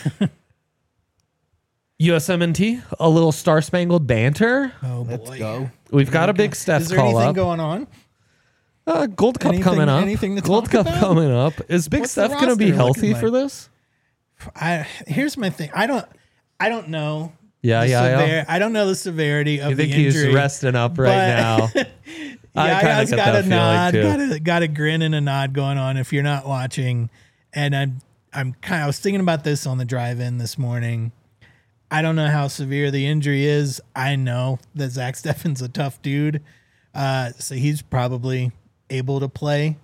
Speaker 1: USMNT, a little Star Spangled Banter.
Speaker 3: Oh, boy.
Speaker 2: Let's go.
Speaker 1: We've got a big Steph
Speaker 3: Is there
Speaker 1: call
Speaker 3: anything
Speaker 1: up.
Speaker 3: going on?
Speaker 1: Gold Cup coming up.
Speaker 3: anything to
Speaker 1: Gold
Speaker 3: talk
Speaker 1: Cup
Speaker 3: about?
Speaker 1: coming up. Is Big
Speaker 3: What's the
Speaker 1: Steph going to be
Speaker 3: roster
Speaker 1: healthy
Speaker 3: looking
Speaker 1: for
Speaker 3: like?
Speaker 1: this?
Speaker 3: Here's my thing. I don't know.
Speaker 1: Yeah,
Speaker 3: the
Speaker 1: yeah.
Speaker 3: I don't know the severity of
Speaker 1: I think
Speaker 3: the injury.
Speaker 1: he's resting up right now. I kinda
Speaker 3: Yaya's
Speaker 1: get
Speaker 3: got
Speaker 1: that
Speaker 3: a
Speaker 1: feeling,
Speaker 3: nod,
Speaker 1: too.
Speaker 3: got a grin and a nod going on. If you're not watching, and I was thinking about this on the drive-in this morning. I don't know how severe the injury is. I know that Zach Steffen's a tough dude, so he's probably able to play.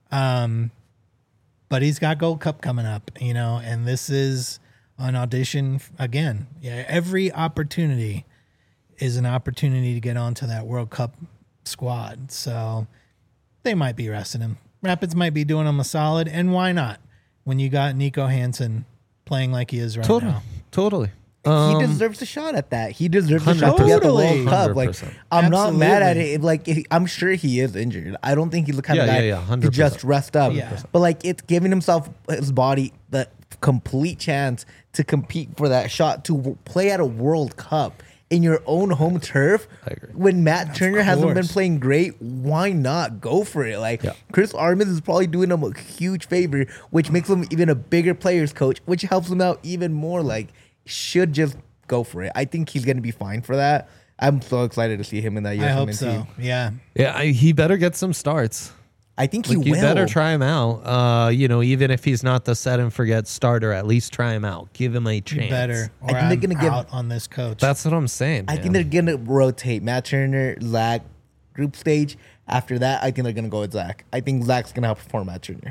Speaker 3: But he's got Gold Cup coming up, and this is an audition again. Yeah, every opportunity is an opportunity to get onto that World Cup squad. So they might be resting him. Rapids might be doing him a solid, and why not? When you got Nico Hansen playing like he is right now.
Speaker 1: Totally.
Speaker 2: He deserves a shot at that. He deserves a shot to be at the
Speaker 3: Totally.
Speaker 2: World Cup. Like
Speaker 1: 100%.
Speaker 2: I'm not mad at
Speaker 3: Absolutely.
Speaker 2: it. Like I'm sure he is injured. I don't think he's the kind of
Speaker 1: Yeah,
Speaker 2: guy
Speaker 1: yeah, yeah,
Speaker 2: to just
Speaker 1: 100%.
Speaker 2: rest up.
Speaker 3: Yeah.
Speaker 2: But like it's giving himself his body the complete chance to compete for that shot to play at a World Cup in your own home turf.
Speaker 1: I agree.
Speaker 2: When Matt Turner hasn't been
Speaker 3: course.
Speaker 2: playing great, why not go for it? Like
Speaker 1: Yeah.
Speaker 2: Chris Armas is probably doing him a huge favor, which makes him even a bigger players coach, which helps him out even more. Like should just go for it. I think he's going to be fine for that. I'm so excited to see him in that USMNT.
Speaker 3: I hope so. Yeah.
Speaker 1: Yeah, he better get some starts.
Speaker 2: I think
Speaker 1: Like,
Speaker 2: he
Speaker 1: you
Speaker 2: will.
Speaker 1: better try him out. Even if he's not the set and forget starter, at least try him out. Give him a chance.
Speaker 3: You better. Or
Speaker 2: I think they're
Speaker 3: I'm
Speaker 2: gonna give-
Speaker 3: out on this coach.
Speaker 1: That's what I'm saying.
Speaker 2: I think they're going to rotate Matt Turner, Zach, group stage. After that, I think they're going to go with Zach. I think Zach's going to outperform Matt Turner.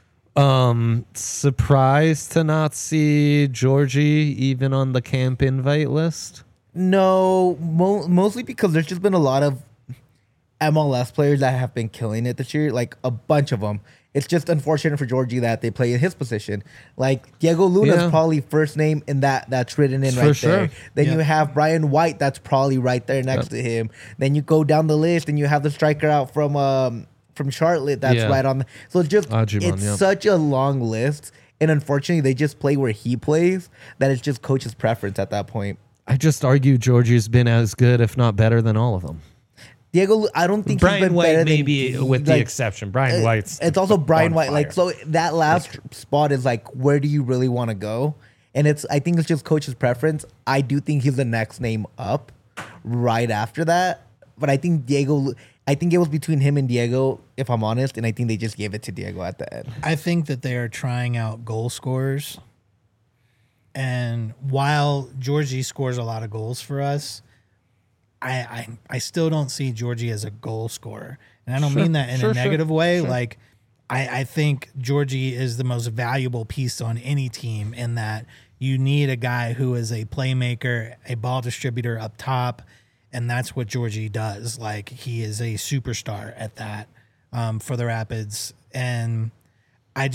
Speaker 1: Surprised to not see Georgie even on the camp invite list.
Speaker 2: No, mostly because there's just been a lot of MLS players that have been killing it this year, like a bunch of them. It's just unfortunate for Georgie that they play in his position. Like Diego Luna's probably first name in that's written in right there. Then you have Brian White that's probably right there next to him. Then you go down the list and you have the striker out from Charlotte that's right on. So it's such a long list. And unfortunately, they just play where he plays. That it's just coach's preference at that point.
Speaker 1: I just argue Georgie's been as good, if not better, than all of them.
Speaker 2: Diego, I don't think
Speaker 1: Brian
Speaker 2: he's been
Speaker 1: White
Speaker 2: better
Speaker 1: maybe
Speaker 2: than,
Speaker 1: with the exception. Brian White's
Speaker 2: it's also Brian White.
Speaker 1: fire.
Speaker 2: Like so, that last spot is like, where do you really want to go? And I think it's just coach's preference. I do think he's the next name up right after that. But I think it was between him and Diego, if I'm honest. And I think they just gave it to Diego at the end.
Speaker 3: I think that they are trying out goal scorers. And while Georgie scores a lot of goals for us, I still don't see Georgie as a goal scorer. And I don't mean that in a negative way. Like, I think Georgie is the most valuable piece on any team in that you need a guy who is a playmaker, a ball distributor up top, and that's what Georgie does. Like, he is a superstar at that for the Rapids. And I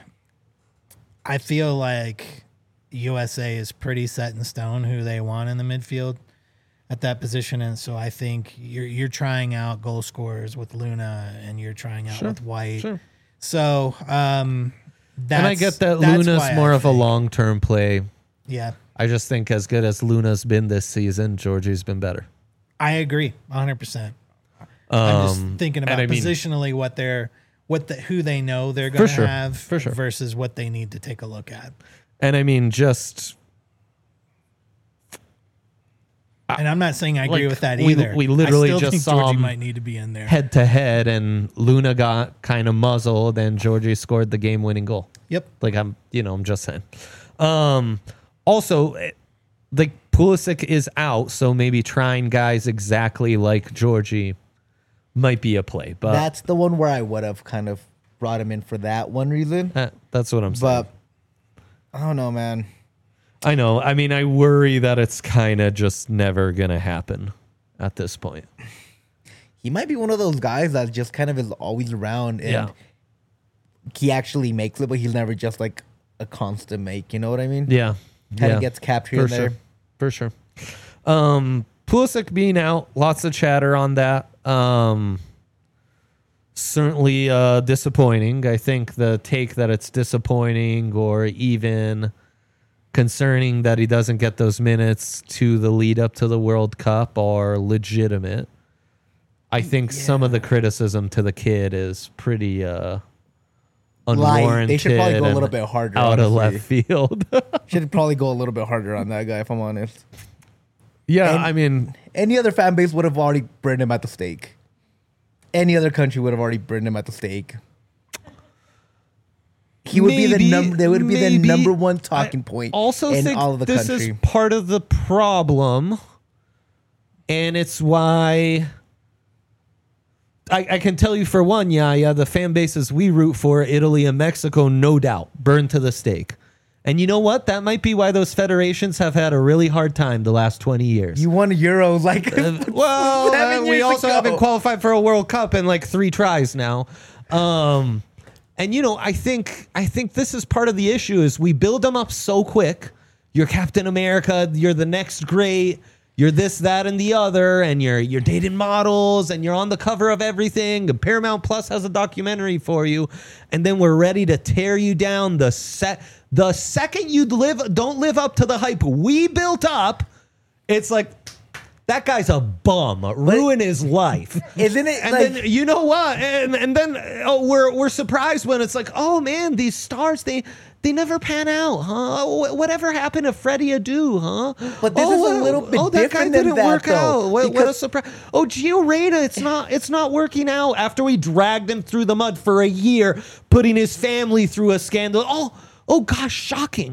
Speaker 3: feel like USA is pretty set in stone who they want in the midfield at that position. And so I think you're trying out goal scorers with Luna and you're trying out with White. So
Speaker 1: and I get that Luna's more of a long-term play.
Speaker 3: Yeah.
Speaker 1: I just think as good as Luna's been this season, Georgie's been better.
Speaker 3: I agree 100%. I'm just thinking about positionally who they know they're going to have versus what they need to take a look at.
Speaker 1: And I mean,
Speaker 3: and I'm not saying I agree with that either.
Speaker 1: We literally
Speaker 3: I still
Speaker 1: just
Speaker 3: think
Speaker 1: saw
Speaker 3: Georgie
Speaker 1: him
Speaker 3: might need to be in there
Speaker 1: head to head, and Luna got kind of muzzled, and Georgie scored the game-winning goal.
Speaker 3: Yep.
Speaker 1: Like I'm just saying. Also, like Pulisic is out, so maybe trying guys exactly like Georgie might be a play. But
Speaker 2: that's the one where I would have kind of brought him in for that one reason.
Speaker 1: That's what I'm saying.
Speaker 2: But I don't know, man.
Speaker 1: I know. I mean, I worry that it's kind of just never going to happen at this point.
Speaker 2: He might be one of those guys that just kind of is always around and he actually makes it, but he's never just like a constant make. You know what I mean?
Speaker 1: Yeah.
Speaker 2: Kind of gets captured in there.
Speaker 1: For sure. Pulisic being out, lots of chatter on that. Certainly disappointing. I think the take that it's disappointing or even concerning that he doesn't get those minutes to the lead up to the World Cup are legitimate. I think some of the criticism to the kid is pretty unwarranted.
Speaker 2: They should probably go a little bit harder.
Speaker 1: Out of left field.
Speaker 2: Should probably go a little bit harder on that guy, if I'm honest.
Speaker 1: Yeah, I mean,
Speaker 2: any other fan base would have already burned him at the stake. Any other country would have already burned him at the stake. He would be the number. They would be the number one talking point.
Speaker 1: Also,
Speaker 2: in
Speaker 1: think
Speaker 2: all of the
Speaker 1: this
Speaker 2: country.
Speaker 1: is part of the problem, and it's why I can tell you for one, the fan bases we root for, Italy and Mexico, no doubt, burned to the stake. And you know what? That might be why those federations have had a really hard time the last 20 years.
Speaker 2: You won Euros like
Speaker 1: we also haven't qualified for a World Cup in like 3 tries now. And I think this is part of the issue is we build them up so quick. You're Captain America, you're the next great, you're this, that, and the other, and you're dating models, and you're on the cover of everything. And Paramount Plus has a documentary for you, and then we're ready to tear you down the second you don't live up to the hype we built up. It's like, that guy's a bum. Ruin his life.
Speaker 2: Isn't it?
Speaker 1: And then you know what? And then we're surprised when it's like, oh man, these stars they never pan out, huh? Whatever happened to Freddie Adu, huh?
Speaker 2: But this is a little bit
Speaker 1: that guy
Speaker 2: different
Speaker 1: didn't
Speaker 2: than
Speaker 1: work
Speaker 2: that,
Speaker 1: out.
Speaker 2: though,
Speaker 1: What a surprise! Oh, Gio Reyna, it's not working out after we dragged him through the mud for a year, putting his family through a scandal. Oh gosh, shocking.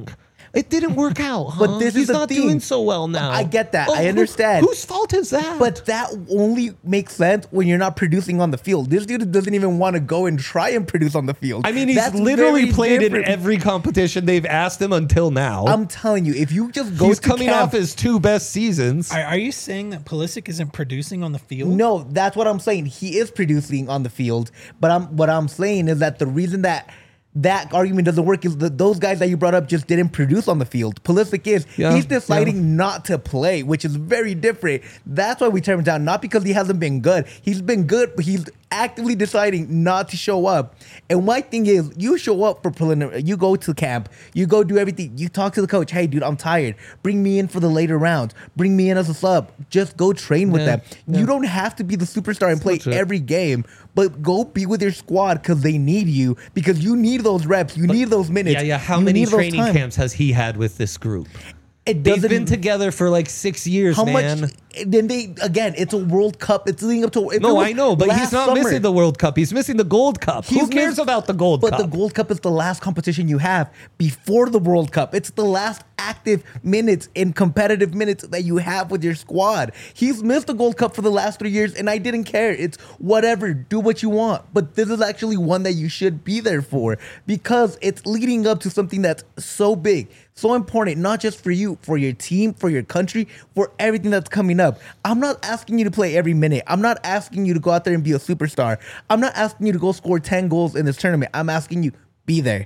Speaker 1: It didn't work out, huh?
Speaker 2: But this
Speaker 1: He's
Speaker 2: is the
Speaker 1: not
Speaker 2: thing.
Speaker 1: doing so well now.
Speaker 2: I get that.
Speaker 1: Oh,
Speaker 2: I understand.
Speaker 1: Whose fault is that?
Speaker 2: But that only makes sense when you're not producing on the field. This dude doesn't even want to go and try and produce on the field.
Speaker 1: I mean, he's
Speaker 2: That's
Speaker 1: literally
Speaker 2: very
Speaker 1: played
Speaker 2: different.
Speaker 1: in every competition they've asked him until now.
Speaker 2: I'm telling you, if you just go
Speaker 1: He's
Speaker 2: to
Speaker 1: coming
Speaker 2: camp,
Speaker 1: off his 2 best seasons.
Speaker 3: Are you saying that Pulisic isn't producing on the field?
Speaker 2: No, that's what I'm saying. He is producing on the field, but what I'm saying is that the reason that argument doesn't work is that those guys that you brought up just didn't produce on the field. Pulisic he's deciding not to play, which is very different. That's why we turn him down, not because he hasn't been good. He's been good, but he's actively deciding not to show up. And my thing is, you show up for preliminary, you go to camp, you go do everything, you talk to the coach, hey dude, I'm tired, bring me in for the later rounds, bring me in as a sub, just go train with them. You don't have to be the superstar and play every game, but go be with your squad because they need you, because you need those reps, you need those minutes.
Speaker 1: Yeah. How
Speaker 2: you
Speaker 1: many
Speaker 2: need those
Speaker 1: training
Speaker 2: time.
Speaker 1: camps has he had with this group?
Speaker 2: It
Speaker 1: They've
Speaker 2: doesn't
Speaker 1: been together for like 6 years,
Speaker 2: how
Speaker 1: man.
Speaker 2: much? Then it's a World Cup. It's leading up to.
Speaker 1: No, I know, but he's
Speaker 2: last
Speaker 1: not
Speaker 2: summer,
Speaker 1: missing the World Cup. He's missing the Gold Cup. Who cares
Speaker 2: missed-
Speaker 1: about the Gold Cup?
Speaker 2: But the Gold Cup is the last competition you have before the World Cup. It's the last active minutes and competitive minutes that you have with your squad. He's missed the Gold Cup for the last 3 years, and I didn't care. It's whatever. Do what you want. But this is actually one that you should be there for because it's leading up to something that's so big, so important, not just for you, for your team, for your country, for everything that's coming up. I'm not asking you to play every minute. I'm not asking you to go out there and be a superstar. I'm not asking you to go score 10 goals in this tournament. I'm asking you, be there.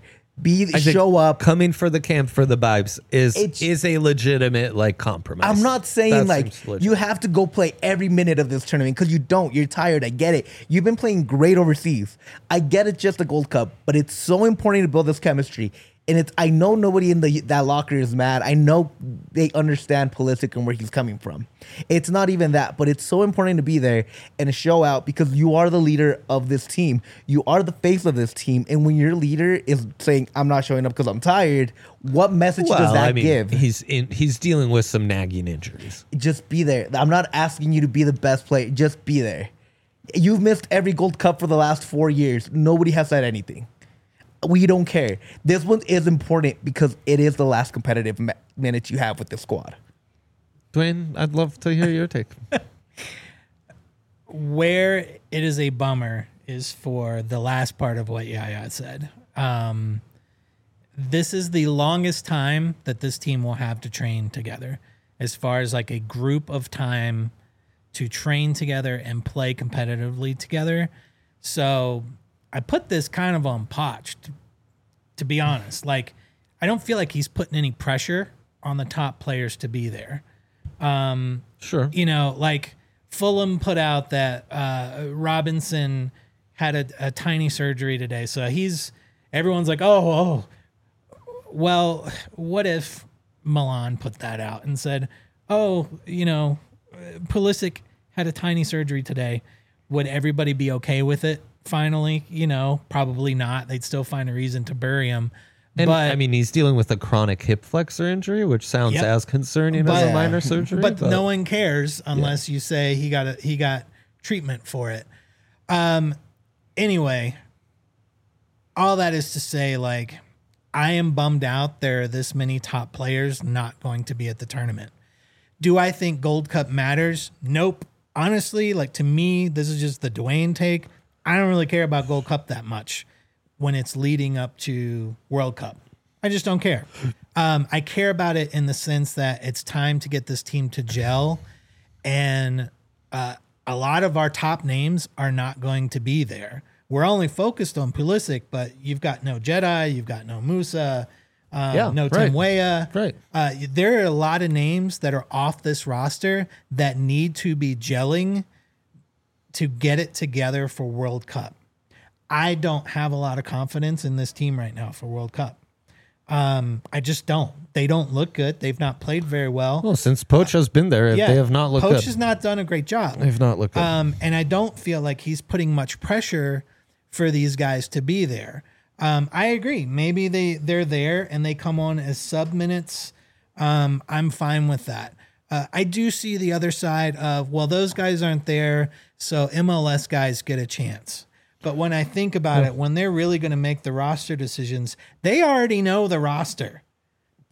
Speaker 2: Show up.
Speaker 1: Coming for the camp for the vibes
Speaker 2: It's-
Speaker 1: is a legitimate like compromise.
Speaker 2: I'm not saying
Speaker 1: That
Speaker 2: like
Speaker 1: seems legit.
Speaker 2: you have to go play every minute of this tournament because you don't. You're tired. I get it. You've been playing great overseas. I get it's just a Gold Cup, but it's so important to build this chemistry. And I know nobody in that locker is mad. I know they understand Pulisic and where he's coming from. It's not even that, but it's so important to be there and show out because you are the leader of this team. You are the face of this team. And when your leader is saying, I'm not showing up because I'm tired, what message does that give?
Speaker 1: He's dealing with some nagging injuries.
Speaker 2: Just be there. I'm not asking you to be the best player. Just be there. You've missed every Gold Cup for the last 4 years. Nobody has said anything. We don't care. This one is important because it is the last competitive minute you have with the squad.
Speaker 1: Dwayne, I'd love to hear your take.
Speaker 3: Where it is a bummer is for the last part of what Yaya said. This is the longest time that this team will have to train together as far as like a group of time to train together and play competitively together. So I put this kind of on Poch, to be honest. Like, I don't feel like he's putting any pressure on the top players to be there.
Speaker 1: Sure.
Speaker 3: You know, like Fulham put out that Robinson had a tiny surgery today. So everyone's like, oh, well, what if Milan put that out and said, oh, you know, Pulisic had a tiny surgery today. Would everybody be okay with it? Finally, you know, probably not. They'd still find a reason to bury him.
Speaker 1: And
Speaker 3: but
Speaker 1: I mean, he's dealing with a chronic hip flexor injury, which sounds
Speaker 3: Yep.
Speaker 1: as concerning as a minor surgery.
Speaker 3: But no one cares unless you say he got treatment for it. Anyway, all that is to say, like, I am bummed out there are this many top players not going to be at the tournament. Do I think Gold Cup matters? Nope. Honestly, like, to me, this is just the Dwayne take. I don't really care about Gold Cup that much when it's leading up to World Cup. I just don't care. I care about it in the sense that it's time to get this team to gel. And a lot of our top names are not going to be there. We're only focused on Pulisic, but you've got no Jedi, you've got no Musa, no Tim Weah.
Speaker 1: Right.
Speaker 3: There are a lot of names that are off this roster that need to be gelling to get it together for World Cup. I don't have a lot of confidence in this team right now for World Cup. I just don't. They don't look good. They've not played very well.
Speaker 1: Well, since Poch has been there, they have not looked good.
Speaker 3: Poch has not done a great job.
Speaker 1: They've not looked good.
Speaker 3: And I don't feel like he's putting much pressure for these guys to be there. I agree. Maybe they're there and they come on as sub minutes. I'm fine with that. I do see the other side of, well, those guys aren't there, so MLS guys get a chance. But when I think about it, when they're really going to make the roster decisions, they already know the roster.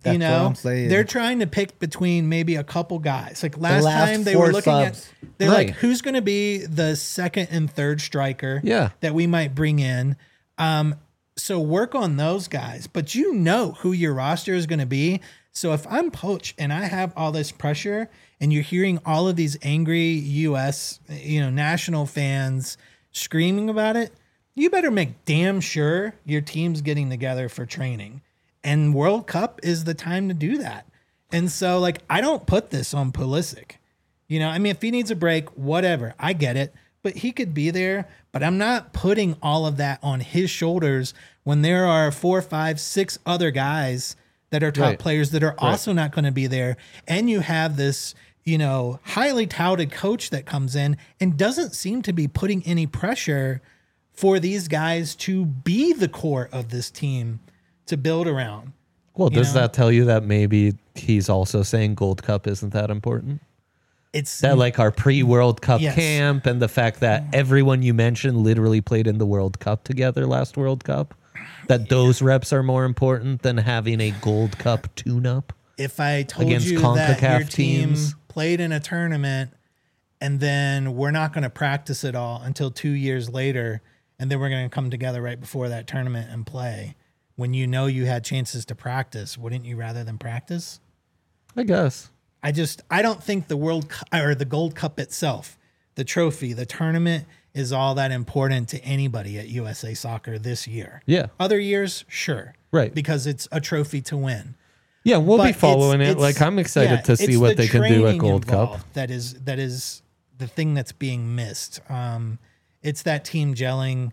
Speaker 2: That's
Speaker 3: you
Speaker 2: what
Speaker 3: know,
Speaker 2: I'm saying.
Speaker 3: they're trying to pick between maybe a couple guys. Like last
Speaker 2: last
Speaker 3: time they
Speaker 2: 4
Speaker 3: were looking
Speaker 2: subs.
Speaker 3: at, they're
Speaker 1: Right.
Speaker 3: like, who's going to be the second and third striker
Speaker 1: Yeah.
Speaker 3: that we might bring in? So work on those guys, but you know who your roster is going to be. So if I'm Poach and I have all this pressure and you're hearing all of these angry US, national fans screaming about it, you better make damn sure your team's getting together for training. And World Cup is the time to do that. And so, like, I don't put this on Pulisic. If he needs a break, whatever, I get it. But he could be there. But I'm not putting all of that on his shoulders when there are 4, 5, 6 other guys that are top
Speaker 1: Right.
Speaker 3: players that are also not going to be there. And you have this, highly touted coach that comes in and doesn't seem to be putting any pressure for these guys to be the core of this team to build around.
Speaker 1: Well, does
Speaker 3: know?
Speaker 1: that tell you that maybe he's also saying Gold Cup isn't that important?
Speaker 3: It's
Speaker 1: That like our pre-World Cup
Speaker 3: Yes.
Speaker 1: camp and the fact that everyone you mentioned literally played in the World Cup together last World Cup, that those reps are more important than having a Gold Cup tune-up.
Speaker 3: if I told
Speaker 1: against
Speaker 3: you that
Speaker 1: CONCACAF
Speaker 3: your team
Speaker 1: teams.
Speaker 3: played in a tournament and then we're not going to practice it all until 2 years later, and then we're going to come together right before that tournament and play, when you know you had chances to practice, wouldn't you rather than practice?
Speaker 1: I guess.
Speaker 3: I don't think the World Cup or the Gold Cup itself, the trophy, the tournament is all that important to anybody at USA Soccer this year.
Speaker 1: Yeah.
Speaker 3: Other years, sure.
Speaker 1: Right.
Speaker 3: Because it's a trophy to win.
Speaker 1: Yeah, we'll
Speaker 3: But
Speaker 1: be following it. Like, I'm excited to see
Speaker 3: it's
Speaker 1: what
Speaker 3: the
Speaker 1: they can do at
Speaker 3: training
Speaker 1: Gold Cup.
Speaker 3: involved that is the thing that's being missed. It's that team gelling,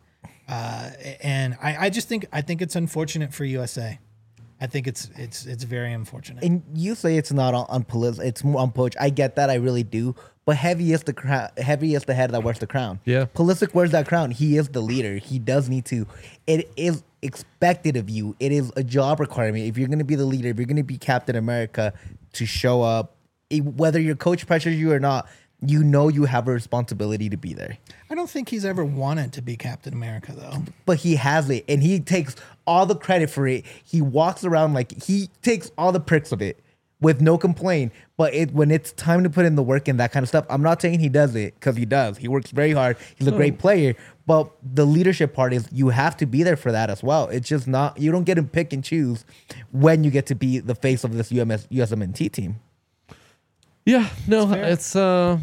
Speaker 3: and I think it's unfortunate for USA. I think it's very unfortunate.
Speaker 2: And you say it's not on Pulisic, it's more on Poach. I get that, I really do. But heavy is the head that wears the crown.
Speaker 1: Yeah.
Speaker 2: Pulisic wears that crown. He is the leader. He does need to. It is expected of you. It is a job requirement. If you're going to be the leader, if you're going to be Captain America, to show up, whether your coach pressures you or not, you know you have a responsibility to be there.
Speaker 3: I don't think he's ever wanted to be Captain America, though.
Speaker 2: But he has it, and he takes all the credit for it. He walks around like he takes all the pricks of it with no complaint. But when it's time to put in the work and that kind of stuff, I'm not saying he does it, because he does. He works very hard. He's a great player. But the leadership part is you have to be there for that as well. It's just not, you don't get to pick and choose when you get to be the face of this USMNT team.
Speaker 1: Yeah, no, it's I'll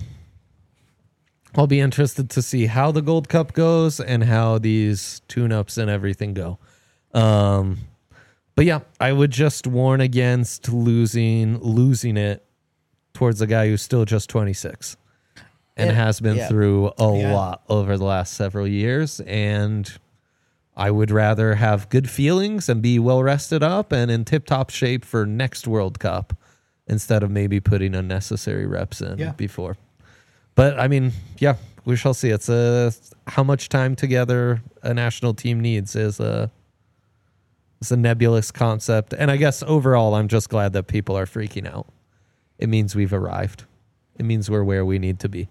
Speaker 1: be interested to see how the Gold Cup goes and how these tune-ups and everything go. But yeah, I would just warn against losing it towards a guy who's still just 26 and has been through a lot over the last several years. And I would rather have good feelings and be well rested up and in tip-top shape for next World Cup instead of maybe putting unnecessary reps in before. But I mean, yeah, we shall see. It's how much time together a national team needs is it's a nebulous concept. And I guess overall, I'm just glad that people are freaking out. It means we've arrived. It means we're where we need to be.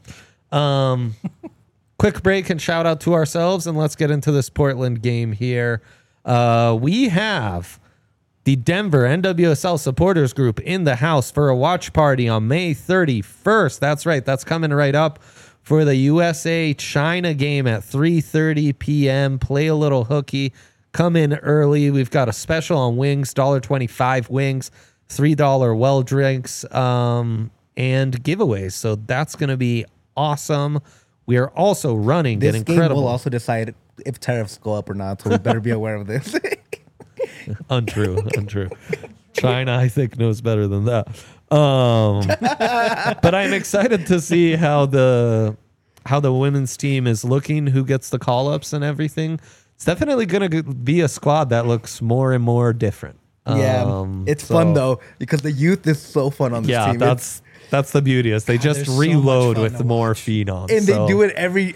Speaker 1: Quick break and shout out to ourselves, and let's get into this Portland game here. We have the Denver NWSL supporters group in the house for a watch party on May 31st. That's right. That's coming right up for the USA-China game at 3:30 p.m. Play a little hooky. Come in early. We've got a special on wings, $1.25 wings, $3 well drinks, and giveaways. So that's going to be awesome. We are also running
Speaker 2: This
Speaker 1: an
Speaker 2: game
Speaker 1: incredible...
Speaker 2: will also decide if tariffs go up or not, so we better be aware of this.
Speaker 1: Untrue. China, I think, knows better than that. But I'm excited to see how the women's team is looking, who gets the call-ups and everything. It's definitely going to be a squad that looks more and more different.
Speaker 2: It's fun though, because the youth is so fun on this team.
Speaker 1: That's the beauty is they just
Speaker 3: there's so much
Speaker 1: reload
Speaker 3: fun
Speaker 1: with
Speaker 3: to
Speaker 1: more
Speaker 3: watch.
Speaker 1: phenoms.
Speaker 2: And they do it every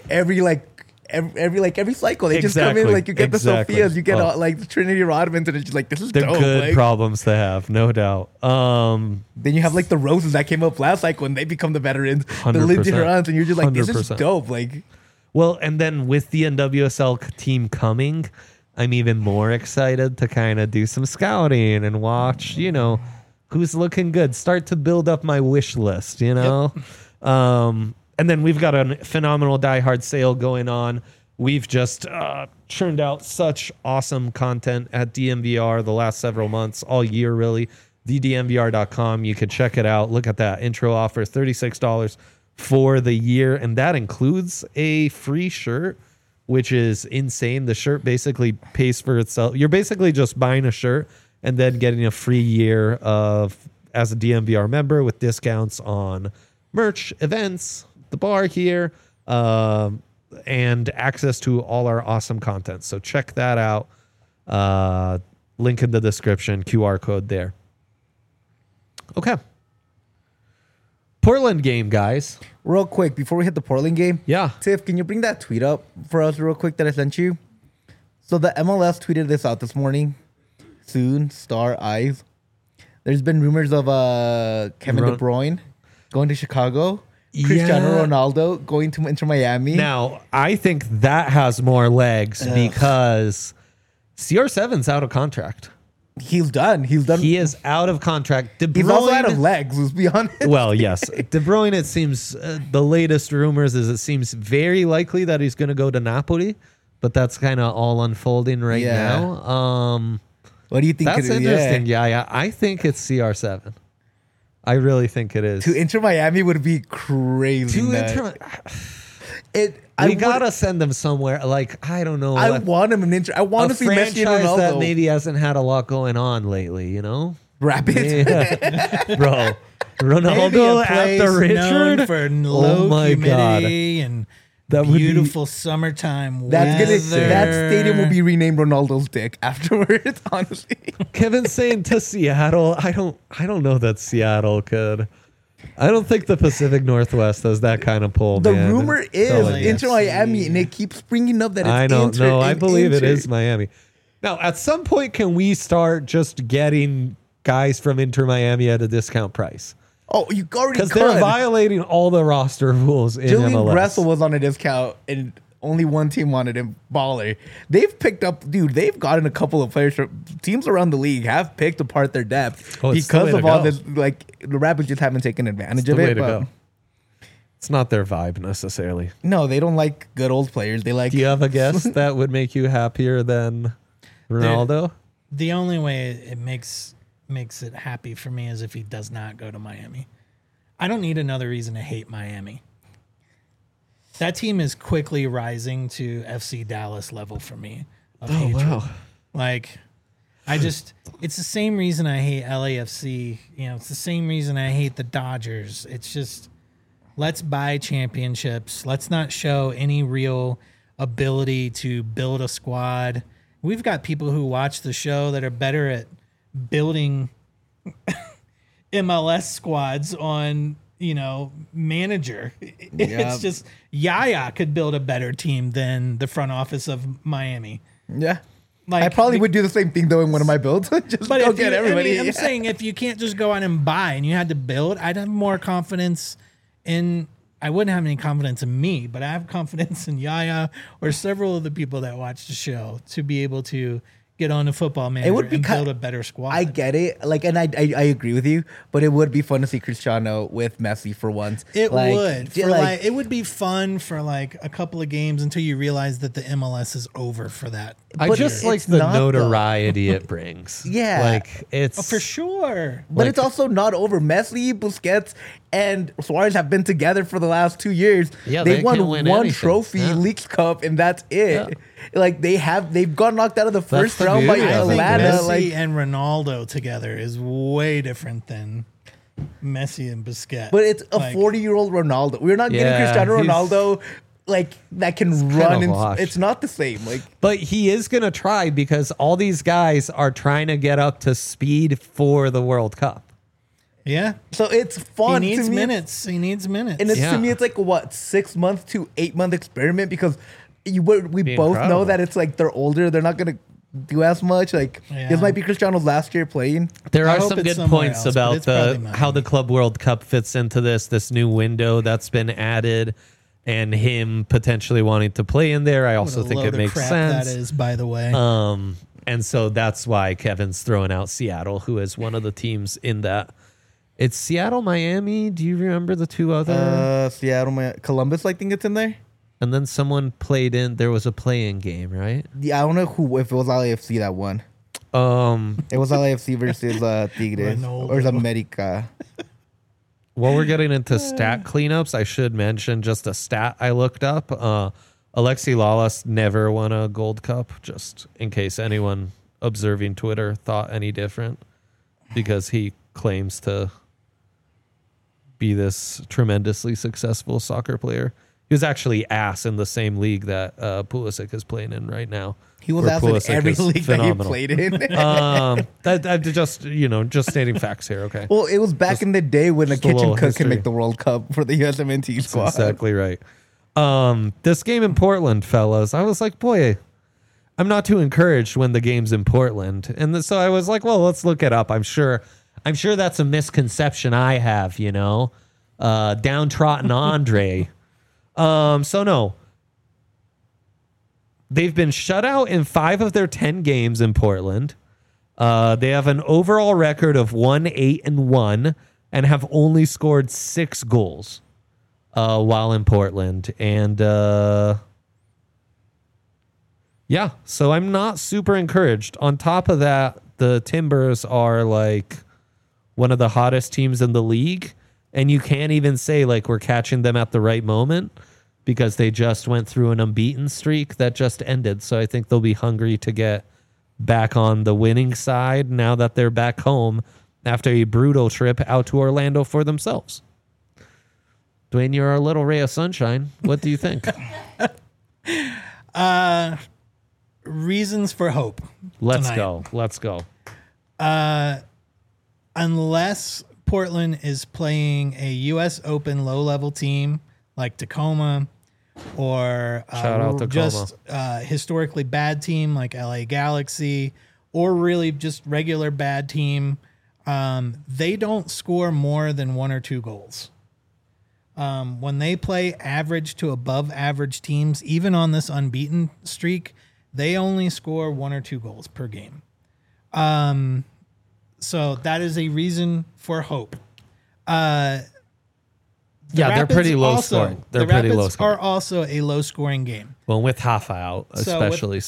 Speaker 2: cycle. They just come in,
Speaker 1: Exactly,
Speaker 2: like, you get
Speaker 1: exactly.
Speaker 2: the Sophias, you get
Speaker 1: Oh.
Speaker 2: like the Trinity Rodmans, and it's just like, this is
Speaker 1: They're
Speaker 2: dope.
Speaker 1: good
Speaker 2: Like,
Speaker 1: problems to have, no doubt.
Speaker 2: then you have like the Roses that came up last cycle and they become the veterans, the
Speaker 1: 100%.
Speaker 2: Lindsay Durants, and you're just like, this is
Speaker 1: 100%.
Speaker 2: dope. Like,
Speaker 1: Well, and then with the NWSL team coming, I'm even more excited to kind of do some scouting and watch, who's looking good. Start to build up my wish list, And then we've got a phenomenal Die Hard sale going on. We've just churned out such awesome content at DMVR the last several months, all year really. TheDMVR.com. You could check it out. Look at that intro offer, $36 for the year. And that includes a free shirt, which is insane. The shirt basically pays for itself. You're basically just buying a shirt and then getting a free year as a DMVR member with discounts on merch, events, the bar here, and access to all our awesome content. So check that out. Link in the description, QR code there. Okay. Portland game, guys.
Speaker 2: Real quick, before we hit the Portland game,
Speaker 1: Yeah.
Speaker 2: Tiff, can you bring that tweet up for us real quick that I sent you? So the MLS tweeted this out this morning. Soon, star eyes. There's been rumors of Kevin De Bruyne going to Chicago, Cristiano Ronaldo going to Inter Miami.
Speaker 1: Now, I think that has more legs because CR7's out of contract.
Speaker 2: He's done.
Speaker 1: He is out of contract. De Bruyne,
Speaker 2: He's also out of legs, let's be honest.
Speaker 1: Well, yes. De Bruyne, it seems, the latest rumors is it seems very likely that he's going to go to Napoli, but that's kind of all unfolding right now.
Speaker 2: What do you think?
Speaker 1: That's interesting. Yeah. I think it's CR7. I really think it is.
Speaker 2: To Inter Miami would be crazy.
Speaker 1: We gotta send them somewhere. Like, I don't know.
Speaker 2: I want him in Inter. I want to see Messi and Ronaldo.
Speaker 1: That maybe hasn't had a lot going on lately.
Speaker 2: Rapid,
Speaker 1: bro. Ronaldo after Richard
Speaker 3: for low humidity and
Speaker 1: that
Speaker 3: beautiful summertime
Speaker 2: that
Speaker 3: weather.
Speaker 2: That stadium will be renamed Ronaldo's dick afterwards. Honestly,
Speaker 1: Kevin's saying to Seattle. I don't know that Seattle could. I don't think the Pacific Northwest has that kind of pull.
Speaker 2: The
Speaker 1: man.
Speaker 2: rumor is Inter Miami, and it keeps springing up that it's
Speaker 1: I don't
Speaker 2: Inter.
Speaker 1: know. I believe it is Miami. Now, at some point, can we start just getting guys from Inter Miami at a discount price?
Speaker 2: Oh, you already
Speaker 1: because they're violating all the roster rules in
Speaker 2: Julian
Speaker 1: MLS.
Speaker 2: Gressel was on a discount, and only one team wanted him. Baller. They've picked up, dude. They've gotten a couple of players. Teams around the league have picked apart their depth because of all this. Like the Rapids just haven't taken advantage of it. But
Speaker 1: it's not their vibe necessarily.
Speaker 2: No, they don't like good old players. They like.
Speaker 1: Do you have a guess that would make you happier than Ronaldo?
Speaker 3: The only way it makes it happy for me is if he does not go to Miami. I don't need another reason to hate Miami. That team is quickly rising to FC Dallas level for me.
Speaker 1: Wow.
Speaker 3: Like, it's the same reason I hate LAFC. It's the same reason I hate the Dodgers. It's just, let's buy championships. Let's not show any real ability to build a squad. We've got people who watch the show that are better at building MLS squads on, manager. It's just Yaya could build a better team than the front office of Miami.
Speaker 2: Yeah. Like, I probably would do the same thing though in one of my builds. Just go get everybody.
Speaker 3: I'm saying if you can't just go out and buy and you had to build, I'd have more confidence in. I wouldn't have any confidence in me, but I have confidence in Yaya or several of the people that watch the show to be able to get on a Football Manager and build a better squad.
Speaker 2: I get it. Like, and I agree with you, but it would be fun to see Cristiano with Messi for once.
Speaker 3: It would. It would be fun for like a couple of games until you realize that the MLS is over for that.
Speaker 1: I just like the notoriety it brings.
Speaker 2: Yeah.
Speaker 1: Like it's
Speaker 3: for sure.
Speaker 2: But it's also not over. Messi, Busquets, and Suarez have been together for the last 2 years.
Speaker 1: Yeah,
Speaker 2: they won one trophy, Leagues Cup, and that's it.
Speaker 1: Yeah.
Speaker 2: Like they've got knocked out of the first round by Atlanta.
Speaker 3: Messi and Ronaldo together is way different than Messi and Busquets.
Speaker 2: But it's a 40-year-old Ronaldo. We're not getting Cristiano Ronaldo like that can run. It's not the same. Like,
Speaker 1: but he is gonna try because all these guys are trying to get up to speed for the World Cup.
Speaker 3: Yeah.
Speaker 2: So it's fun.
Speaker 3: He needs minutes. And
Speaker 2: to me, it's like what 6 month to 8 month experiment because we both know that it's like they're older. They're not gonna do as much. Like this might be Cristiano's last year playing.
Speaker 1: There are some good points about how the Club World Cup fits into this new window that's been added. and him potentially wanting to play in there. I
Speaker 3: What
Speaker 1: also
Speaker 3: a
Speaker 1: think
Speaker 3: load
Speaker 1: it
Speaker 3: of
Speaker 1: makes
Speaker 3: crap
Speaker 1: sense.
Speaker 3: That is, by the way.
Speaker 1: And so that's why Kevin's throwing out Seattle, who is one of the teams in that. It's Seattle, Miami. Do you remember the two other?
Speaker 2: Seattle, Columbus, I think it's in there.
Speaker 1: And then someone played in. There was a play-in game, right?
Speaker 2: Yeah, I don't know if it was LAFC that won. It was LAFC versus Tigres
Speaker 3: Ronaldo.
Speaker 2: or America.
Speaker 1: While we're getting into stat cleanups, I should mention just a stat I looked up. Alexi Lalas never won a Gold Cup, just in case anyone observing Twitter thought any different, because he claims to be this tremendously successful soccer player. He was actually ass in the same league that Pulisic is playing in right now.
Speaker 2: He was
Speaker 1: where
Speaker 2: asked in
Speaker 1: Pulisic
Speaker 2: every
Speaker 1: is
Speaker 2: league that
Speaker 1: phenomenal.
Speaker 2: he played in.
Speaker 1: That just stating facts here, okay?
Speaker 2: Well, it was back in the day when a
Speaker 1: a
Speaker 2: kitchen
Speaker 1: little
Speaker 2: cook
Speaker 1: history.
Speaker 2: could make the World Cup for the USMNT squad.
Speaker 1: Exactly right. This game in Portland, fellas, I was like, boy, I'm not too encouraged when the game's in Portland. And so I was like, well, let's look it up. I'm sure that's a misconception I have, downtrodden Andre. So no. They've been shut out in 5 of their 10 games in Portland. They have an overall record of 1-8-1 and have only scored 6 goals while in Portland. And yeah, so I'm not super encouraged. On top of that, the Timbers are like one of the hottest teams in the league. And you can't even say like we're catching them at the right moment, because they just went through an unbeaten streak that just ended. So I think they'll be hungry to get back on the winning side now that they're back home after a brutal trip out to Orlando for themselves. Dwayne, you're our little ray of sunshine. What do you think?
Speaker 3: Reasons for hope.
Speaker 1: Let's
Speaker 3: tonight.
Speaker 1: go.
Speaker 3: Unless Portland is playing a U.S. Open low-level team like Tacoma, or
Speaker 1: Shout out Tacoma.
Speaker 3: just historically bad team like LA Galaxy, or really just regular bad team, they don't score more than 1 or 2 goals. When they play average to above average teams, even on this unbeaten streak, they only score 1 or 2 goals per game. So that is a reason for hope.
Speaker 1: They're pretty low
Speaker 3: also,
Speaker 1: scoring. They're
Speaker 3: the
Speaker 1: pretty
Speaker 3: Rapids
Speaker 1: low scoring.
Speaker 3: are also a low scoring game.
Speaker 1: Well, with Hafa out, especially.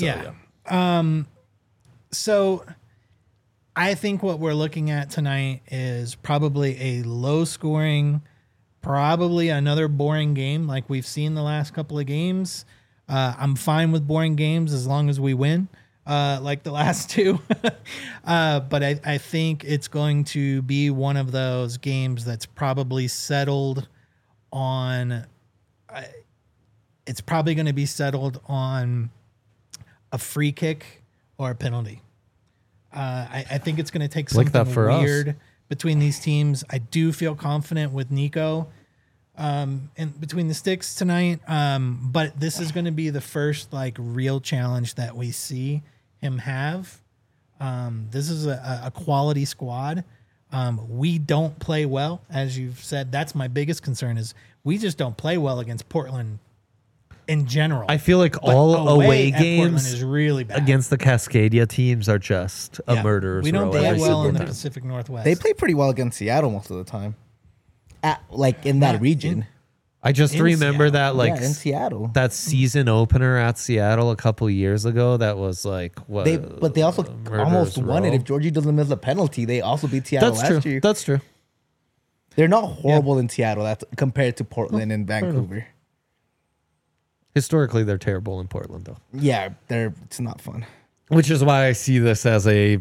Speaker 3: So I think what we're looking at tonight is probably a low scoring, probably another boring game like we've seen the last couple of games. I'm fine with boring games as long as we win, like the last 2. But I think it's going to be one of those games that's probably settled on. It's probably going to be settled on a free kick or a penalty. I think it's going to take
Speaker 1: Like that
Speaker 3: something
Speaker 1: for us.
Speaker 3: weird between these teams. I do feel confident with Nico in between the sticks tonight. But this is going to be the first like real challenge that we see him have. This is a quality squad. We don't play well, as you've said. That's my biggest concern is we just don't play well against Portland in general.
Speaker 1: I feel like
Speaker 3: But
Speaker 1: all away
Speaker 3: at Portland
Speaker 1: games
Speaker 3: is really bad.
Speaker 1: against the Cascadia teams are just a
Speaker 3: Yeah.
Speaker 1: murderer's
Speaker 3: We don't
Speaker 1: row
Speaker 3: play
Speaker 1: every
Speaker 3: well
Speaker 1: single
Speaker 3: in the
Speaker 1: time.
Speaker 3: Pacific Northwest.
Speaker 2: They play pretty well against Seattle most of the time. Like in that
Speaker 3: Not
Speaker 2: region.
Speaker 1: I just
Speaker 3: in
Speaker 1: remember
Speaker 3: Seattle.
Speaker 1: that like
Speaker 2: yeah, in Seattle.
Speaker 1: that season opener at Seattle a couple years ago. That was like what?
Speaker 2: But they also
Speaker 1: murderer's
Speaker 2: almost won it.
Speaker 1: row.
Speaker 2: If Georgie doesn't miss a penalty, they also beat Seattle
Speaker 1: That's
Speaker 2: last
Speaker 1: true.
Speaker 2: year.
Speaker 1: That's true.
Speaker 2: They're not horrible in Seattle. That's compared to Portland and Vancouver.
Speaker 1: Historically, they're terrible in Portland, though,
Speaker 2: Yeah, it's not fun.
Speaker 1: which is why I see this as a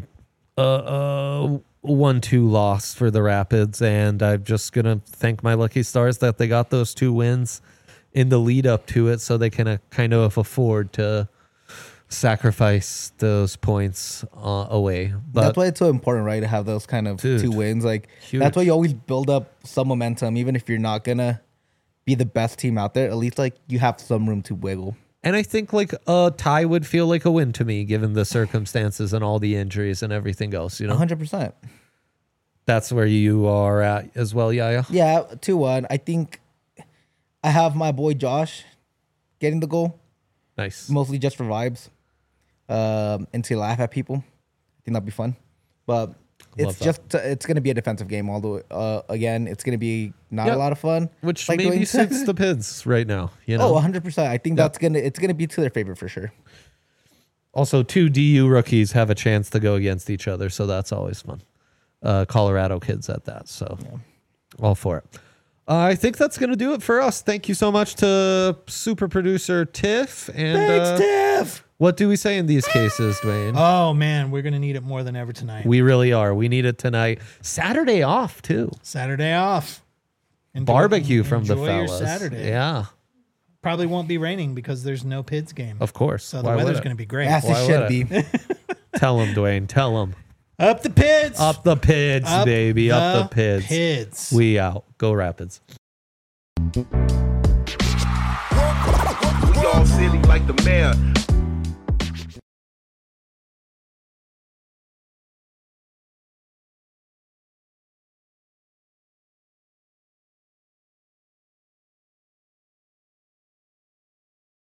Speaker 1: 1-2 loss for the Rapids, and I'm just gonna thank my lucky stars that they got those 2 wins in the lead up to it, so they can kind of afford to sacrifice those points away. But
Speaker 2: That's why it's so important, right, to have those kind of
Speaker 1: Dude,
Speaker 2: 2 wins. Like
Speaker 1: huge.
Speaker 2: that's why you always build up some momentum, even if you're not gonna be the best team out there. At least like you have some room to wiggle.
Speaker 1: And I think like a tie would feel like a win to me, given the circumstances and all the injuries and everything else.
Speaker 2: 100%.
Speaker 1: That's where you are at as well, Yaya.
Speaker 2: Yeah, 2-1. I think I have my boy Josh getting the goal,
Speaker 1: Nice.
Speaker 2: mostly just for vibes, and to laugh at people. I think that'd be fun. But it's it's going to be a defensive game all the way. Again, it's going to be not
Speaker 1: Yep.
Speaker 2: a lot of fun.
Speaker 1: Which
Speaker 2: like
Speaker 1: maybe
Speaker 2: Dwayne said.
Speaker 1: suits the Pids right now. You know.
Speaker 2: Oh, 100%. I think it's going to be to their favor for sure.
Speaker 1: Also, 2 DU rookies have a chance to go against each other, so that's always fun. Colorado kids at that, so all for it. I think that's going to do it for us. Thank you so much to super producer Tiff. And
Speaker 2: Thanks, Tiff.
Speaker 1: what do we say in these cases, Dwayne?
Speaker 3: Oh man, we're gonna need it more than ever tonight.
Speaker 1: We really are. We need it tonight. Saturday off too.
Speaker 3: Saturday off.
Speaker 1: Barbecue from the
Speaker 3: enjoy
Speaker 1: fellas.
Speaker 3: your Saturday.
Speaker 1: Yeah,
Speaker 3: Probably won't be raining because there's no Pids game.
Speaker 1: of course.
Speaker 3: So the
Speaker 1: Why would
Speaker 3: weather's
Speaker 1: it?
Speaker 3: going to be great.
Speaker 2: As
Speaker 1: Why
Speaker 2: it
Speaker 1: would
Speaker 2: should be.
Speaker 1: Tell him, Dwayne. Tell him.
Speaker 3: Up the Pids.
Speaker 1: Up the Pids,
Speaker 3: Up
Speaker 1: baby. Up the Pids.
Speaker 3: Pids.
Speaker 1: We out. Go Rapids.
Speaker 5: We all silly like the mayor.